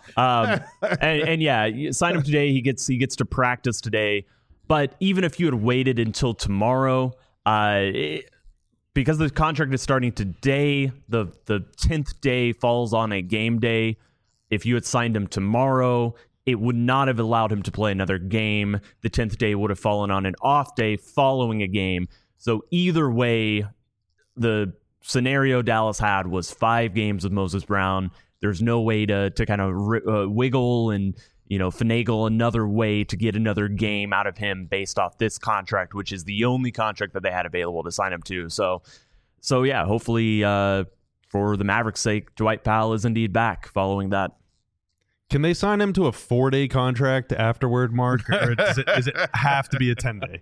And yeah, you sign him today. He gets to practice today. But even if you had waited until tomorrow, because the contract is starting today, the 10th day falls on a game day. If you had signed him tomorrow, it would not have allowed him to play another game. The 10th day would have fallen on an off day following a game. So either way, the scenario Dallas had was 5 games with Moses Brown. There's no way to kind of wiggle and, you know, finagle another way to get another game out of him based off this contract, which is the only contract that they had available to sign him to. So yeah, hopefully for the Mavericks' sake, Dwight Powell is indeed back following that. Can they sign him to a 4-day contract afterward, Mark? Or does it have to be a 10-day?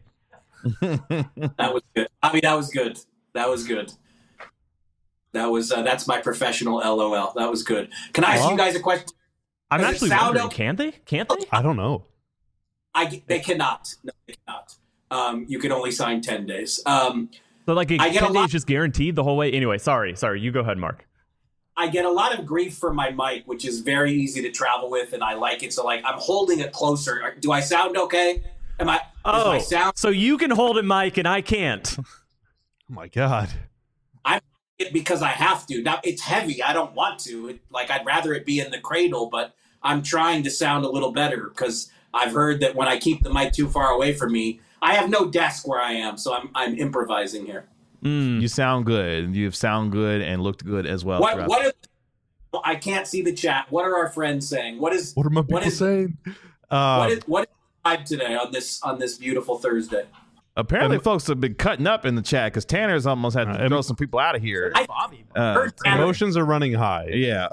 That was good. I mean, that was good. That's my professional LOL. That was good. Can I ask you guys a question? I'm Does it actually sound wondering, okay? can't they? I don't know. They cannot. No, they cannot. You can only sign 10 days. So like I get 10 days just guaranteed the whole way? Anyway, sorry. You go ahead, Mark. I get a lot of grief from my mic, which is very easy to travel with, and I like it. So, like, I'm holding it closer. Do I sound okay? Is my sound? So you can hold it, Mike, and I can't. Oh, my God. I'm it because I have to. Now, it's heavy. I don't want to. I'd rather it be in the cradle, but I'm trying to sound a little better because I've heard that when I keep the mic too far away from me, I have no desk where I am, so I'm improvising here. You sound good. You sound good and looked good as well. I can't see the chat. What are our friends saying? What are my people saying? What is vibe today on this beautiful Thursday? Apparently, folks have been cutting up in the chat because Tanner's almost had to throw some people out of here. Emotions are running high. Yeah.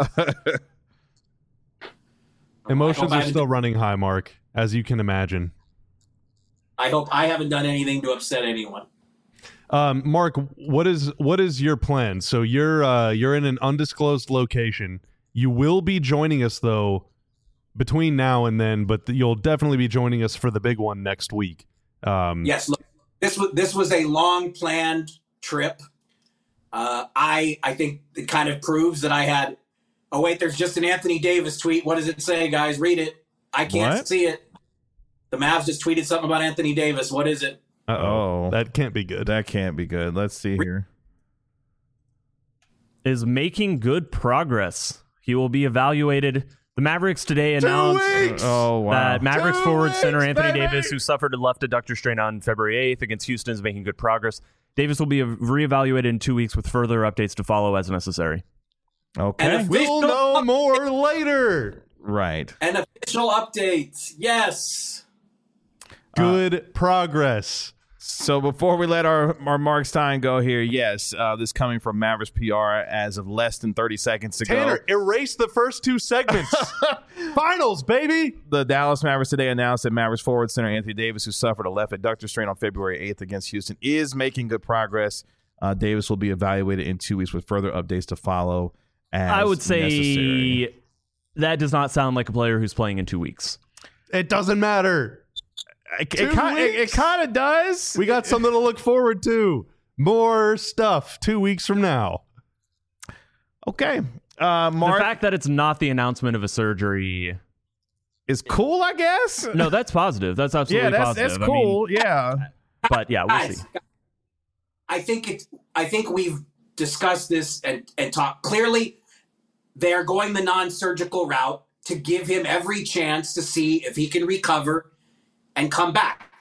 Emotions are still running high, Mark, as you can imagine. I hope I haven't done anything to upset anyone. Mark, what is your plan? So you're in an undisclosed location. You will be joining us though between now and then, but you'll definitely be joining us for the big one next week. Yes, look, this was a long planned trip. I think it kind of proves that I had. Oh wait, there's just an Anthony Davis tweet. What does it say, guys? Read it. I can't see it. The Mavs just tweeted something about Anthony Davis. What is it? Uh-oh. That can't be good. That can't be good. Let's see here. Is making good progress. He will be evaluated The Mavericks today announced that Mavericks 2 forward weeks, center Anthony baby! Davis, who suffered a left adductor strain on February 8th against Houston, is making good progress. Davis will be reevaluated in 2 weeks with further updates to follow as necessary. Okay. We'll know more later. Right. An official update. Yes. Good progress. So before we let our Mark Stein go here, yes, this coming from Mavericks PR as of less than 30 seconds to Tanner, go. erase the first 2 segments. Finals, baby. The Dallas Mavericks today announced that Mavericks forward center Anthony Davis, who suffered a left adductor strain on February 8th against Houston, is making good progress. Davis will be evaluated in 2 weeks with further updates to follow as I would say necessary. that does not sound like a player who's playing in 2 weeks. It doesn't matter. It kind of does. We got something to look forward to. More stuff 2 weeks from now. Okay. The Mark fact that it's not the announcement of a surgery, is cool, I guess. no, that's positive. That's absolutely Yeah, positive. that's cool. Yeah. But yeah, we'll see. I think we've discussed this and talked clearly. They're going the non-surgical route to give him every chance to see if he can recover and come back.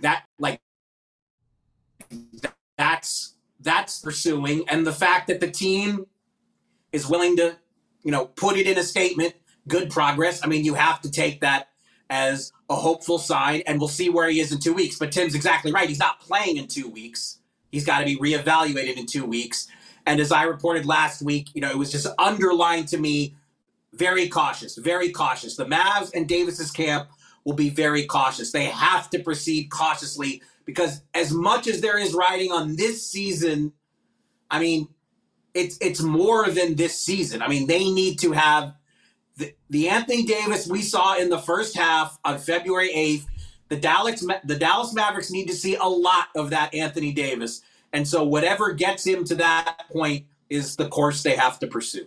That's pursuing, and the fact that the team is willing to, put it in a statement, good progress. I mean, you have to take that as a hopeful sign, and we'll see where he is in 2 weeks. But Tim's exactly right. He's not playing in 2 weeks. He's got to be reevaluated in 2 weeks. And as I reported last week, it was just underlined to me, very cautious, very cautious. The Mavs and Davis's camp will be very cautious. They have to proceed cautiously because as much as there is riding on this season, I mean, it's more than this season. I mean, they need to have the Anthony Davis we saw in the first half on February 8th. The Dallas Mavericks need to see a lot of that Anthony Davis. And so whatever gets him to that point is the course they have to pursue.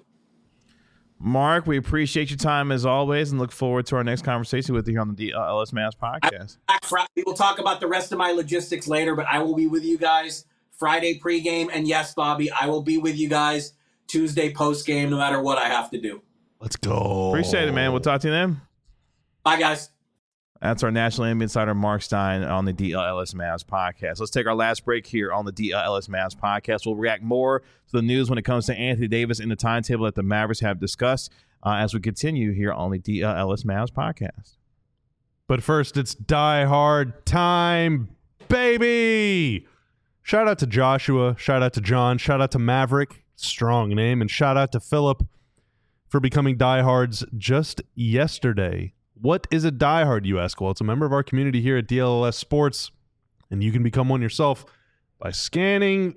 Mark, we appreciate your time as always and look forward to our next conversation with you here on the DLS Mavs podcast. We will talk about the rest of my logistics later, but I will be with you guys Friday pregame. And yes, Bobby, I will be with you guys Tuesday postgame, no matter what I have to do. Let's go. Appreciate it, man. We'll talk to you then. Bye, guys. That's our National NBA insider, Mark Stein, on the DLS Mavs podcast. Let's take our last break here on the DLS Mavs podcast. We'll react more to the news when it comes to Anthony Davis and the timetable that the Mavericks have discussed as we continue here on the DLS Mavs podcast. But first, it's Die Hard time, baby. Shout out to Joshua. Shout out to John. Shout out to Maverick. Strong name. And shout out to Philip for becoming diehards just yesterday. What is a diehard, you ask? Well, it's a member of our community here at DLS Sports, and you can become one yourself by scanning,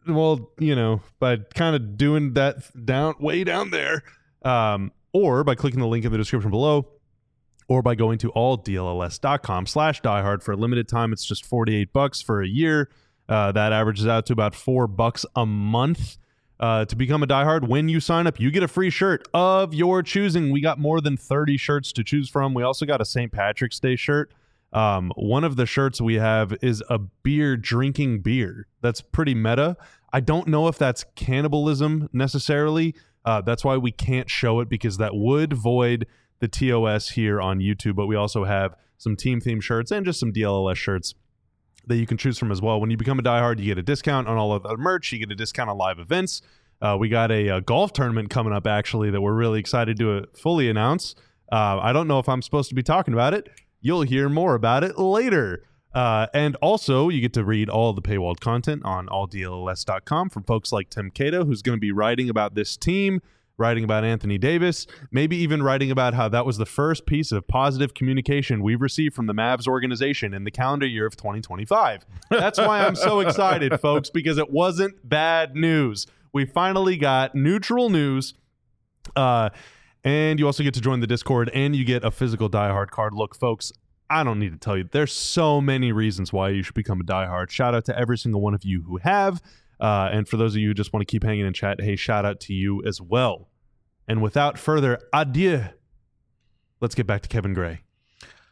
by kind of doing that way down there, or by clicking the link in the description below, or by going to alldlls.com/diehard. For a limited time, it's just $48 for a year. That averages out to about $4 a month. To become a diehard, when you sign up, you get a free shirt of your choosing. We got more than 30 shirts to choose from. We also got a St. Patrick's Day shirt. One of the shirts we have is a beer drinking beer. That's pretty meta. I don't know if that's cannibalism necessarily. That's why we can't show it, because that would void the TOS here on YouTube. But we also have some team theme shirts and just some DLLS shirts that you can choose from as well. When you become a diehard, you get a discount on all of the merch. You get a discount on live events. We got a golf tournament coming up, actually, that we're really excited to fully announce. I don't know if I'm supposed to be talking about it. You'll hear more about it later. And also, you get to read all the paywalled content on alldlls.com from folks like Tim Cato, who's going to be writing about this team, writing about Anthony Davis, maybe even writing about how that was the first piece of positive communication we've received from the Mavs organization in the calendar year of 2025. That's why I'm so excited, folks, because it wasn't bad news. We finally got neutral news. And you also get to join the Discord, and you get a physical diehard card. Look, folks, I don't need to tell you. There's so many reasons why you should become a diehard. Shout out to every single one of you who have. And for those of you who just want to keep hanging in chat, hey, shout out to you as well. And without further adieu, let's get back to Kevin Gray.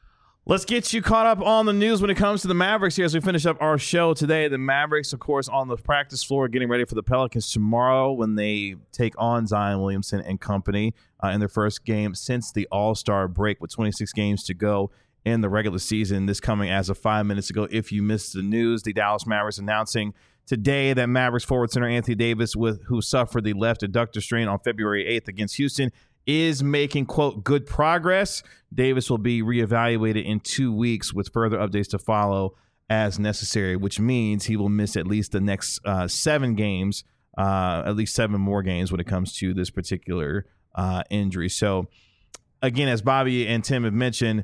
Let's get you caught up on the news when it comes to the Mavericks here as we finish up our show today. The Mavericks, of course, on the practice floor getting ready for the Pelicans tomorrow when they take on Zion Williamson and company in their first game since the All-Star break with 26 games to go in the regular season. This coming as of 5 minutes ago. If you missed the news, the Dallas Mavericks announcing today that Mavericks forward center Anthony Davis, who suffered the left adductor strain on February 8th against Houston, is making, quote, good progress. Davis will be reevaluated in 2 weeks with further updates to follow as necessary, which means he will miss at least the next 7 games, at least 7 more games when it comes to this particular injury. So, again, as Bobby and Tim have mentioned,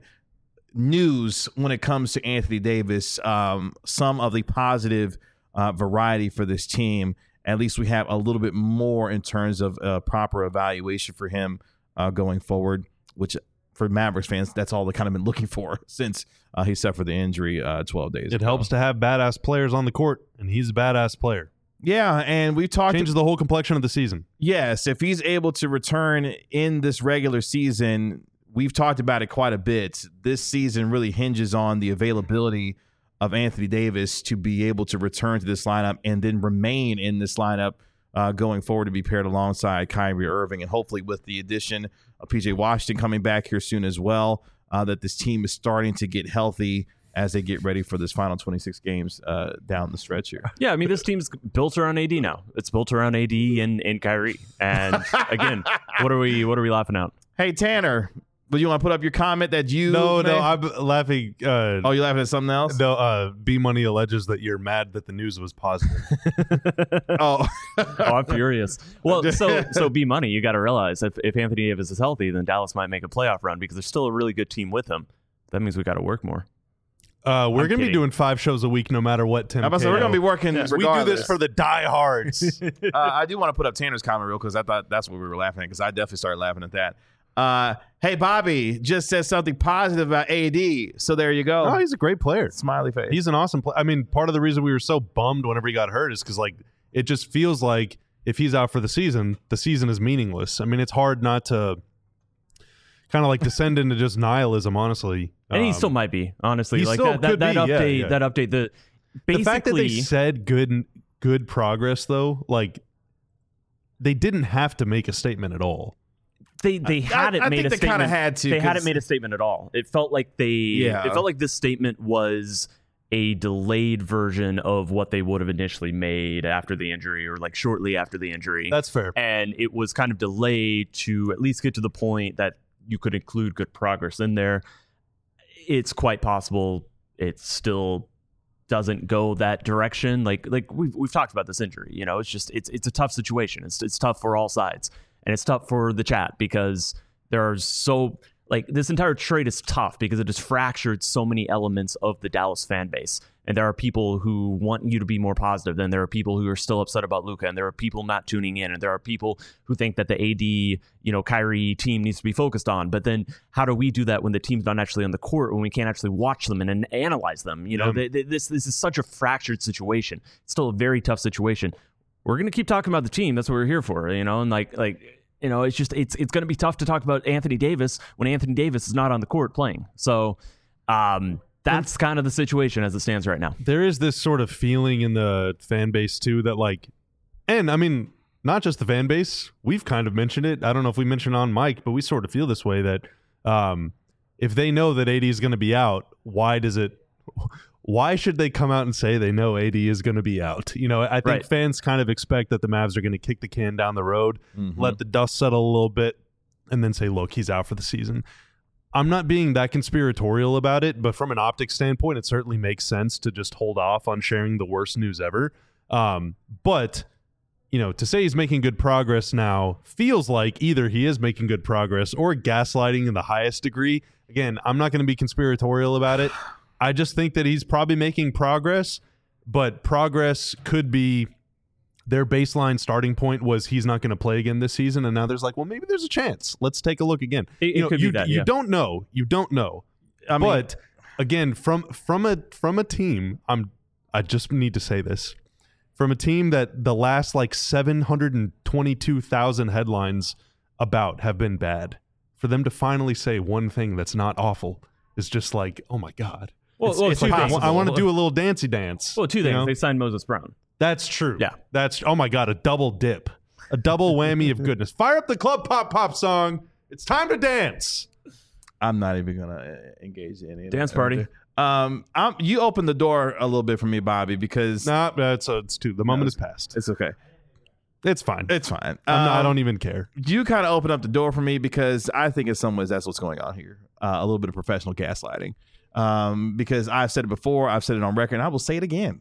news when it comes to Anthony Davis, some of the positive variety for this team. At least we have a little bit more in terms of proper evaluation for him going forward, which for Mavericks fans, that's all they've kind of been looking for since he suffered the injury 12 days ago. It helps to have badass players on the court, and he's a badass player. Yeah, and we've talked... Changes the whole complexion of the season. Yes, if he's able to return in this regular season, we've talked about it quite a bit. This season really hinges on the availability of Anthony Davis to be able to return to this lineup and then remain in this lineup going forward to be paired alongside Kyrie Irving, and hopefully with the addition of PJ Washington coming back here soon as well, that this team is starting to get healthy as they get ready for this final 26 games down the stretch here. Yeah, I mean, this team's built around AD now. It's built around AD and Kyrie. And again, what are we laughing at? Hey, Tanner, would you want to put up your comment that you... No, I'm laughing. Oh, you're laughing at something else? No, B-Money alleges that you're mad that the news was positive. Oh, I'm furious. Well, so B-Money, you got to realize if Anthony Davis is healthy, then Dallas might make a playoff run because there's still a really good team with him. That means we got to work more. We're going to be doing 5 shows a week no matter what, Tim. we're going to be working regardless. We do this for the diehards. I do want to put up Tanner's comment real because I thought that's what we were laughing at because I definitely started laughing at that. Hey, Bobby just said something positive about AD, so there you go. Oh, he's a great player. Smiley face. He's an awesome player. I mean, part of the reason we were so bummed whenever he got hurt is because, like, it just feels like if he's out for the season is meaningless. I mean, it's hard not to kind of like descend into just nihilism, honestly. And he still might be, honestly. He like still that could be, update, yeah. that update. The fact that they said good progress, though, like they didn't have to make a statement at all. They hadn't made a statement. They kind of had to. They hadn't made a statement at all. It felt like It felt like this statement was a delayed version of what they would have initially made after the injury, or like shortly after the injury. That's fair. And it was kind of delayed to at least get to the point that you could include good progress in there. It's quite possible it still doesn't go that direction. Like we've talked about this injury. You know, it's just it's a tough situation. It's tough for all sides. And it's tough for the chat because there are this entire trade is tough because it has fractured so many elements of the Dallas fan base. And there are people who want you to be more positive. Then there are people who are still upset about Luka, and there are people not tuning in, and there are people who think that the AD, Kyrie team needs to be focused on. But then how do we do that when the team's not actually on the court, when we can't actually watch them and analyze them? This is such a fractured situation. It's still a very tough situation. We're going to keep talking about the team. That's what we're here for, and it's just it's going to be tough to talk about Anthony Davis when Anthony Davis is not on the court playing. So that's kind of the situation as it stands right now. There is this sort of feeling in the fan base too that and I mean, not just the fan base, we've kind of mentioned it. I don't know if we mentioned on mic, but we sort of feel this way that if they know that AD is going to be out, why should they come out and say they know AD is going to be out? I think fans kind of expect that the Mavs are going to kick the can down the road, let the dust settle a little bit, and then say, look, he's out for the season. I'm not being that conspiratorial about it, but from an optics standpoint, it certainly makes sense to just hold off on sharing the worst news ever. But to say he's making good progress now feels like either he is making good progress or gaslighting in the highest degree. Again, I'm not going to be conspiratorial about it. I just think that he's probably making progress, but progress could be their baseline starting point was he's not going to play again this season, and now there's maybe there's a chance. Let's take a look again. It could be that. You don't know. You don't know. But again, from a team, I just need to say this. From a team that the last 722,000 headlines about have been bad, for them to finally say one thing that's not awful is just like, oh my God. Well, It's two possible. things. I want to do a little dancey dance. Well, two you things. know? They signed Moses Brown. That's true. Yeah. That's, oh my God, a double dip. A double whammy of goodness. Fire up the Club Pop Pop song. It's time to dance. I'm not even gonna engage in any of Dance that. party. You opened the door a little bit for me, Bobby, because Nah, it's too. The moment is past. it's okay. It's fine. It's fine. I don't even care. You kind of opened up the door for me because I think in some ways that's what's going on here. A little bit of professional gaslighting. Because I've said it before, I've said it on record, and I will say it again.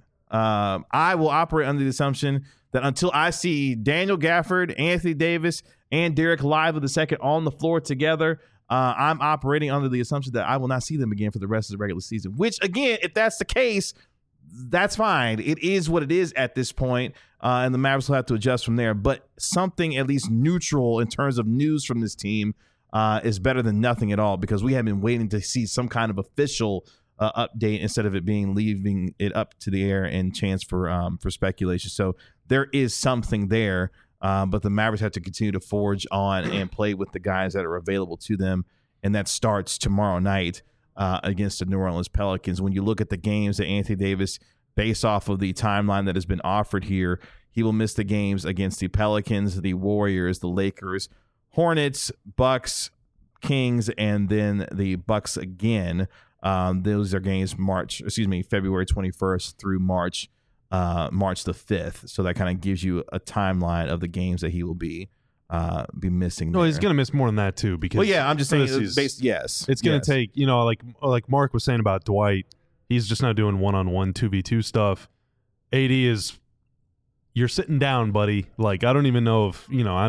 I will operate under the assumption that until I see Daniel Gafford, Anthony Davis, and Derek Lively II on the floor together, I'm operating under the assumption that I will not see them again for the rest of the regular season. Which, again, if that's the case, that's fine. It is what it is at this point, and the Mavericks will have to adjust from there. But something at least neutral in terms of news from this team is better than nothing at all, because we have been waiting to see some kind of official update instead of it being leaving it up to the air and chance for speculation. So there is something there, but the Mavericks have to continue to forge on and play with the guys that are available to them, and that starts tomorrow night against the New Orleans Pelicans. When you look at the games that Anthony Davis, based off of the timeline that has been offered here, he will miss the games against the Pelicans, the Warriors, the Lakers, Hornets, Bucks, Kings, and then the Bucks again. Those are games February 21st through March the 5th. So that kind of gives you a timeline of the games that he will be missing. No, there. he's going to miss more than that too. Because Well, yeah, I'm just saying. yes, it's going to take. Like Mark was saying about Dwight, he's just not doing one-on-one 2v2 stuff. AD is, you're sitting down, buddy. Like, I don't even know if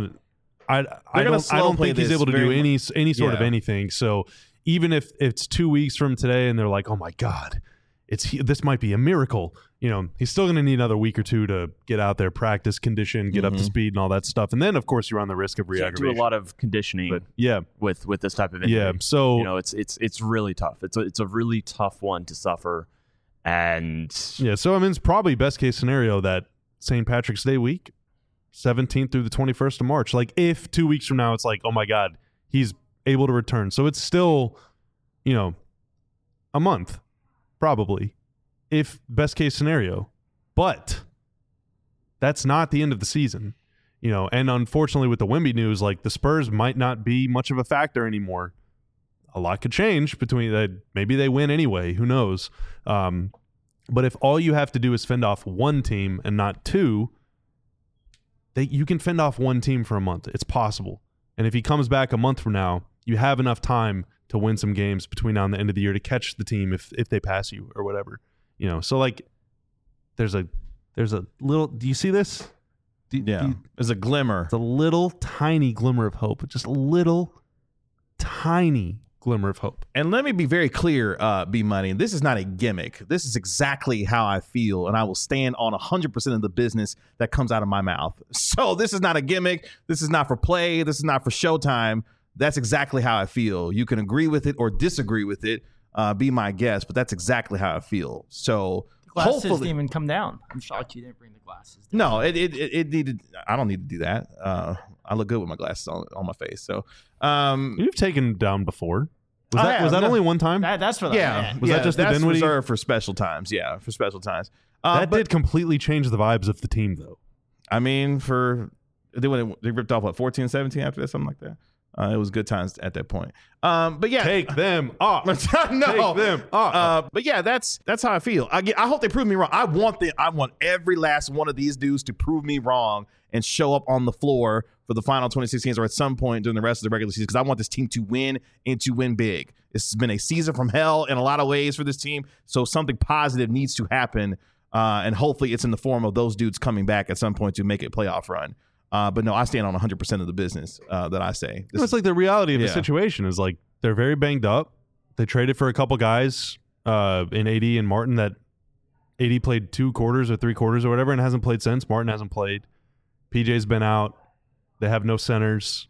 I don't think he's able to do any sort of anything. So even if it's 2 weeks from today and they're like, oh my God, this might be a miracle. He's still going to need another week or two to get out there, practice, condition, get up to speed and all that stuff. And then, of course, you run the risk of Can't re-aggravation. do a lot of conditioning But yeah, with this type of injury. yeah. So it's really tough. It's a really tough one to suffer. And yeah, so I mean, it's probably best case scenario that St. Patrick's Day week, 17th through the 21st of March. Like, if 2 weeks from now it's like, oh my God, he's able to return. So it's still, a month, probably, if best case scenario. But that's not the end of the season, and unfortunately with the Wemby news, like, the Spurs might not be much of a factor anymore. A lot could change between that. Maybe they win anyway. Who knows? But if all you have to do is fend off one team and not two, you can fend off one team for a month. It's possible. And if he comes back a month from now, you have enough time to win some games between now and the end of the year to catch the team if they pass you or whatever. So like there's a little, do you see this? There's a glimmer. It's a little tiny glimmer of hope. Just a little tiny glimmer of hope. And let me be very clear, B-Money, this is not a gimmick. This is exactly how I feel, and I will stand on 100% of the business that comes out of my mouth. So this is not a gimmick. This is not for play. This is not for showtime. That's exactly how I feel. You can agree with it or disagree with it. Be my guest, but that's exactly how I feel. So Glasses hopefully didn't even come down. I'm shocked you didn't bring the glasses down. No, it needed. I don't need to do that. I look good with my glasses on my face. So You've taken down before. Was I that have. only one time? That's what I yeah, meant. Was that just the that's Dinwiddie? reserved for special times? Yeah, for special times. That but did completely change the vibes of the team, though. I mean, they ripped off 14, 17 after that, something like that. It was good times at that point. But yeah, Take them off. no, Take them off. but yeah, that's how I feel. I hope they prove me wrong. I want every last one of these dudes to prove me wrong and show up on the floor for the final 26 games or at some point during the rest of the regular season, because I want this team to win and to win big. This has been a season from hell in a lot of ways for this team, so something positive needs to happen, and hopefully it's in the form of those dudes coming back at some point to make a playoff run. But no, I stand on 100% of the business that I say. It's like the reality of the Yeah. situation is like they're very banged up. They traded for a couple guys in AD and Martin that AD played 2 quarters or 3 quarters or whatever and hasn't played since. Martin hasn't played. PJ's been out. They have no centers.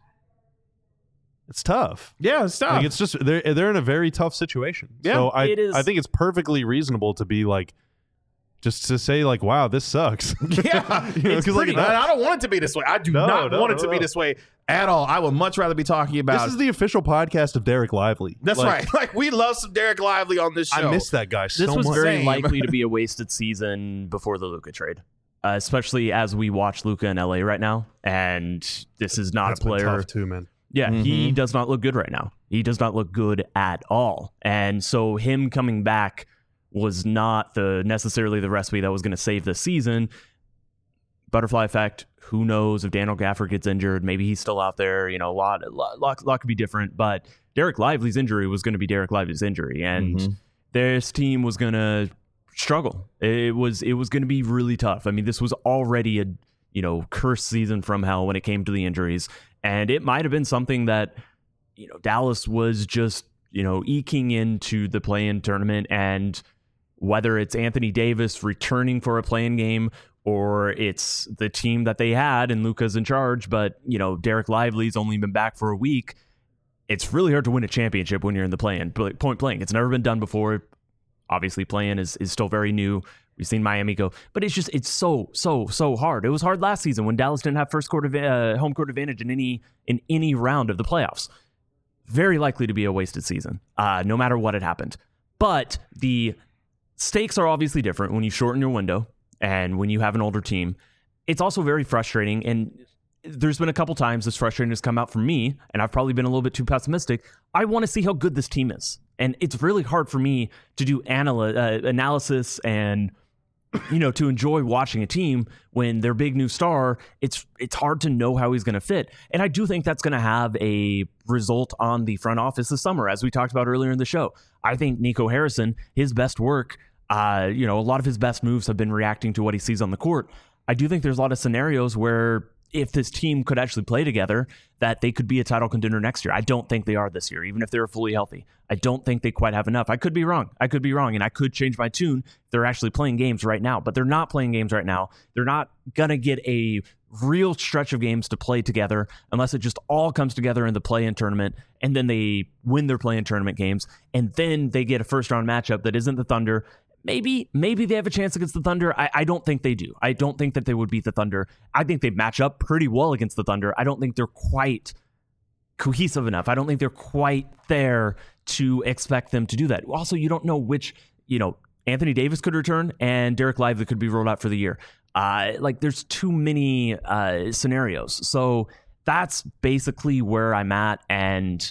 It's tough. Yeah, it's tough. Like, it's just they're in a very tough situation. Yeah, so I it is. think it's perfectly reasonable to be like, just to say like, wow, this sucks. Yeah, You know, it's 'cause, like, pretty, I don't want it to be this way. I do not want it to be this way. At all. I would much rather be talking about. This is the official podcast of Derek Lively. That's right. Like, we love some Derek Lively on this show. I miss that guy so This was much. very Same. likely to be a wasted season before the Luka trade, especially as we watch Luka in LA right now. And this is not That's a been player. tough too, man. Yeah, he does not look good right now. He does not look good at all. And so him coming back was not necessarily the recipe that was going to save the season. Butterfly effect. Who knows if Daniel Gafford gets injured? Maybe he's still out there. You know, a lot could be different. But Derek Lively's injury was going to be Derek Lively's injury, and this team was going to struggle. It was going to be really tough. I mean, this was already a cursed season from hell when it came to the injuries, and it might have been something that Dallas was just eking into the play-in tournament, and whether it's Anthony Davis returning for a play-in game, or it's the team that they had and Luka's in charge, but Derek Lively's only been back for a week. It's really hard to win a championship when you're in the play-in. Point blank, it's never been done before. Obviously, play-in is still very new. We've seen Miami go, but it's so hard. It was hard last season when Dallas didn't have home court advantage in any round of the playoffs. Very likely to be a wasted season, no matter what had happened. But the stakes are obviously different when you shorten your window. And when you have an older team, it's also very frustrating. And there's been a couple times this frustration has come out from me, and I've probably been a little bit too pessimistic. I want to see how good this team is. And it's really hard for me to do analysis and, to enjoy watching a team when their big new star, it's hard to know how he's going to fit. And I do think that's going to have a result on the front office this summer, as we talked about earlier in the show. I think Nico Harrison, his best work, a lot of his best moves have been reacting to what he sees on the court. I do think there's a lot of scenarios where if this team could actually play together, that they could be a title contender next year. I don't think they are this year, even if they're fully healthy. I don't think they quite have enough. I could be wrong, and I could change my tune if they're actually playing games right now, but they're not playing games right now. They're not going to get a real stretch of games to play together unless it just all comes together in the play-in tournament, and then they win their play-in tournament games, and then they get a first-round matchup that isn't the Thunder. Maybe they have a chance against the Thunder. I don't think they do. I don't think that they would beat the Thunder. I think they match up pretty well against the Thunder. I don't think they're quite cohesive enough. I don't think they're quite there to expect them to do that. Also, you don't know which, Anthony Davis could return and Derek Lively could be rolled out for the year. There's too many scenarios. So that's basically where I'm at, and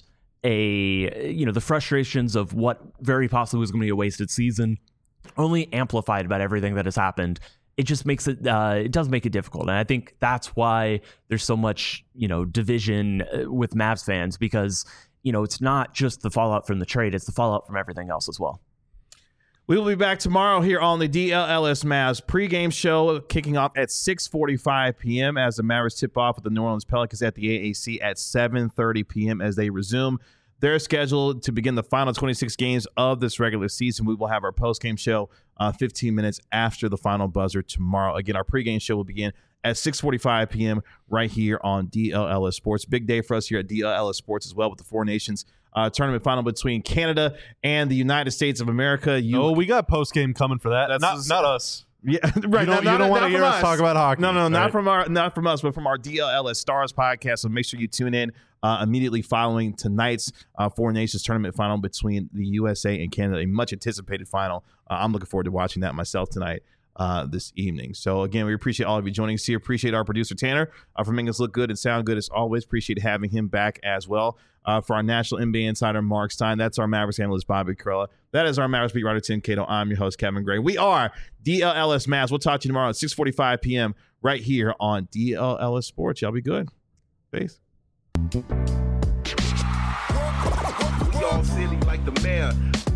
the frustrations of what very possibly was going to be a wasted season only amplified about everything that has happened. It just makes it does make it difficult. And I think that's why there's so much, division with Mavs fans, because, it's not just the fallout from the trade, it's the fallout from everything else as well. We will be back tomorrow here on the DLLS Mavs pregame show, kicking off at 6:45 p.m. as the Mavericks tip off with the New Orleans Pelicans at the AAC at 7:30 p.m. as they resume. They're scheduled to begin the final 26 games of this regular season. We will have our post-game show 15 minutes after the final buzzer tomorrow. Again, our pregame show will begin at 6:45 p.m. right here on DLLS Sports. Big day for us here at DLLS Sports as well, with the Four Nations tournament final between Canada and the United States of America. We got post-game coming for that. Not us. Yeah, right. You don't want to hear us talk about hockey. No, not right? from us, but from our DLLS Stars podcast. So make sure you tune in immediately following tonight's Four Nations tournament final between the USA and Canada, a much anticipated final. I'm looking forward to watching that myself tonight, this evening. So again, we appreciate all of you joining us here. Appreciate our producer Tanner for making us look good and sound good as always. Appreciate having him back as well. For our national NBA insider Mark Stein, that's our Mavericks analyst Bobby Carella. That is our Mavericks beat writer Tim Cato. I'm your host Kevin Gray. We are DLLS Mavs. We'll talk to you tomorrow at 6:45 p.m. right here on DLLS Sports. Y'all be good. Peace. We all silly like the mayor.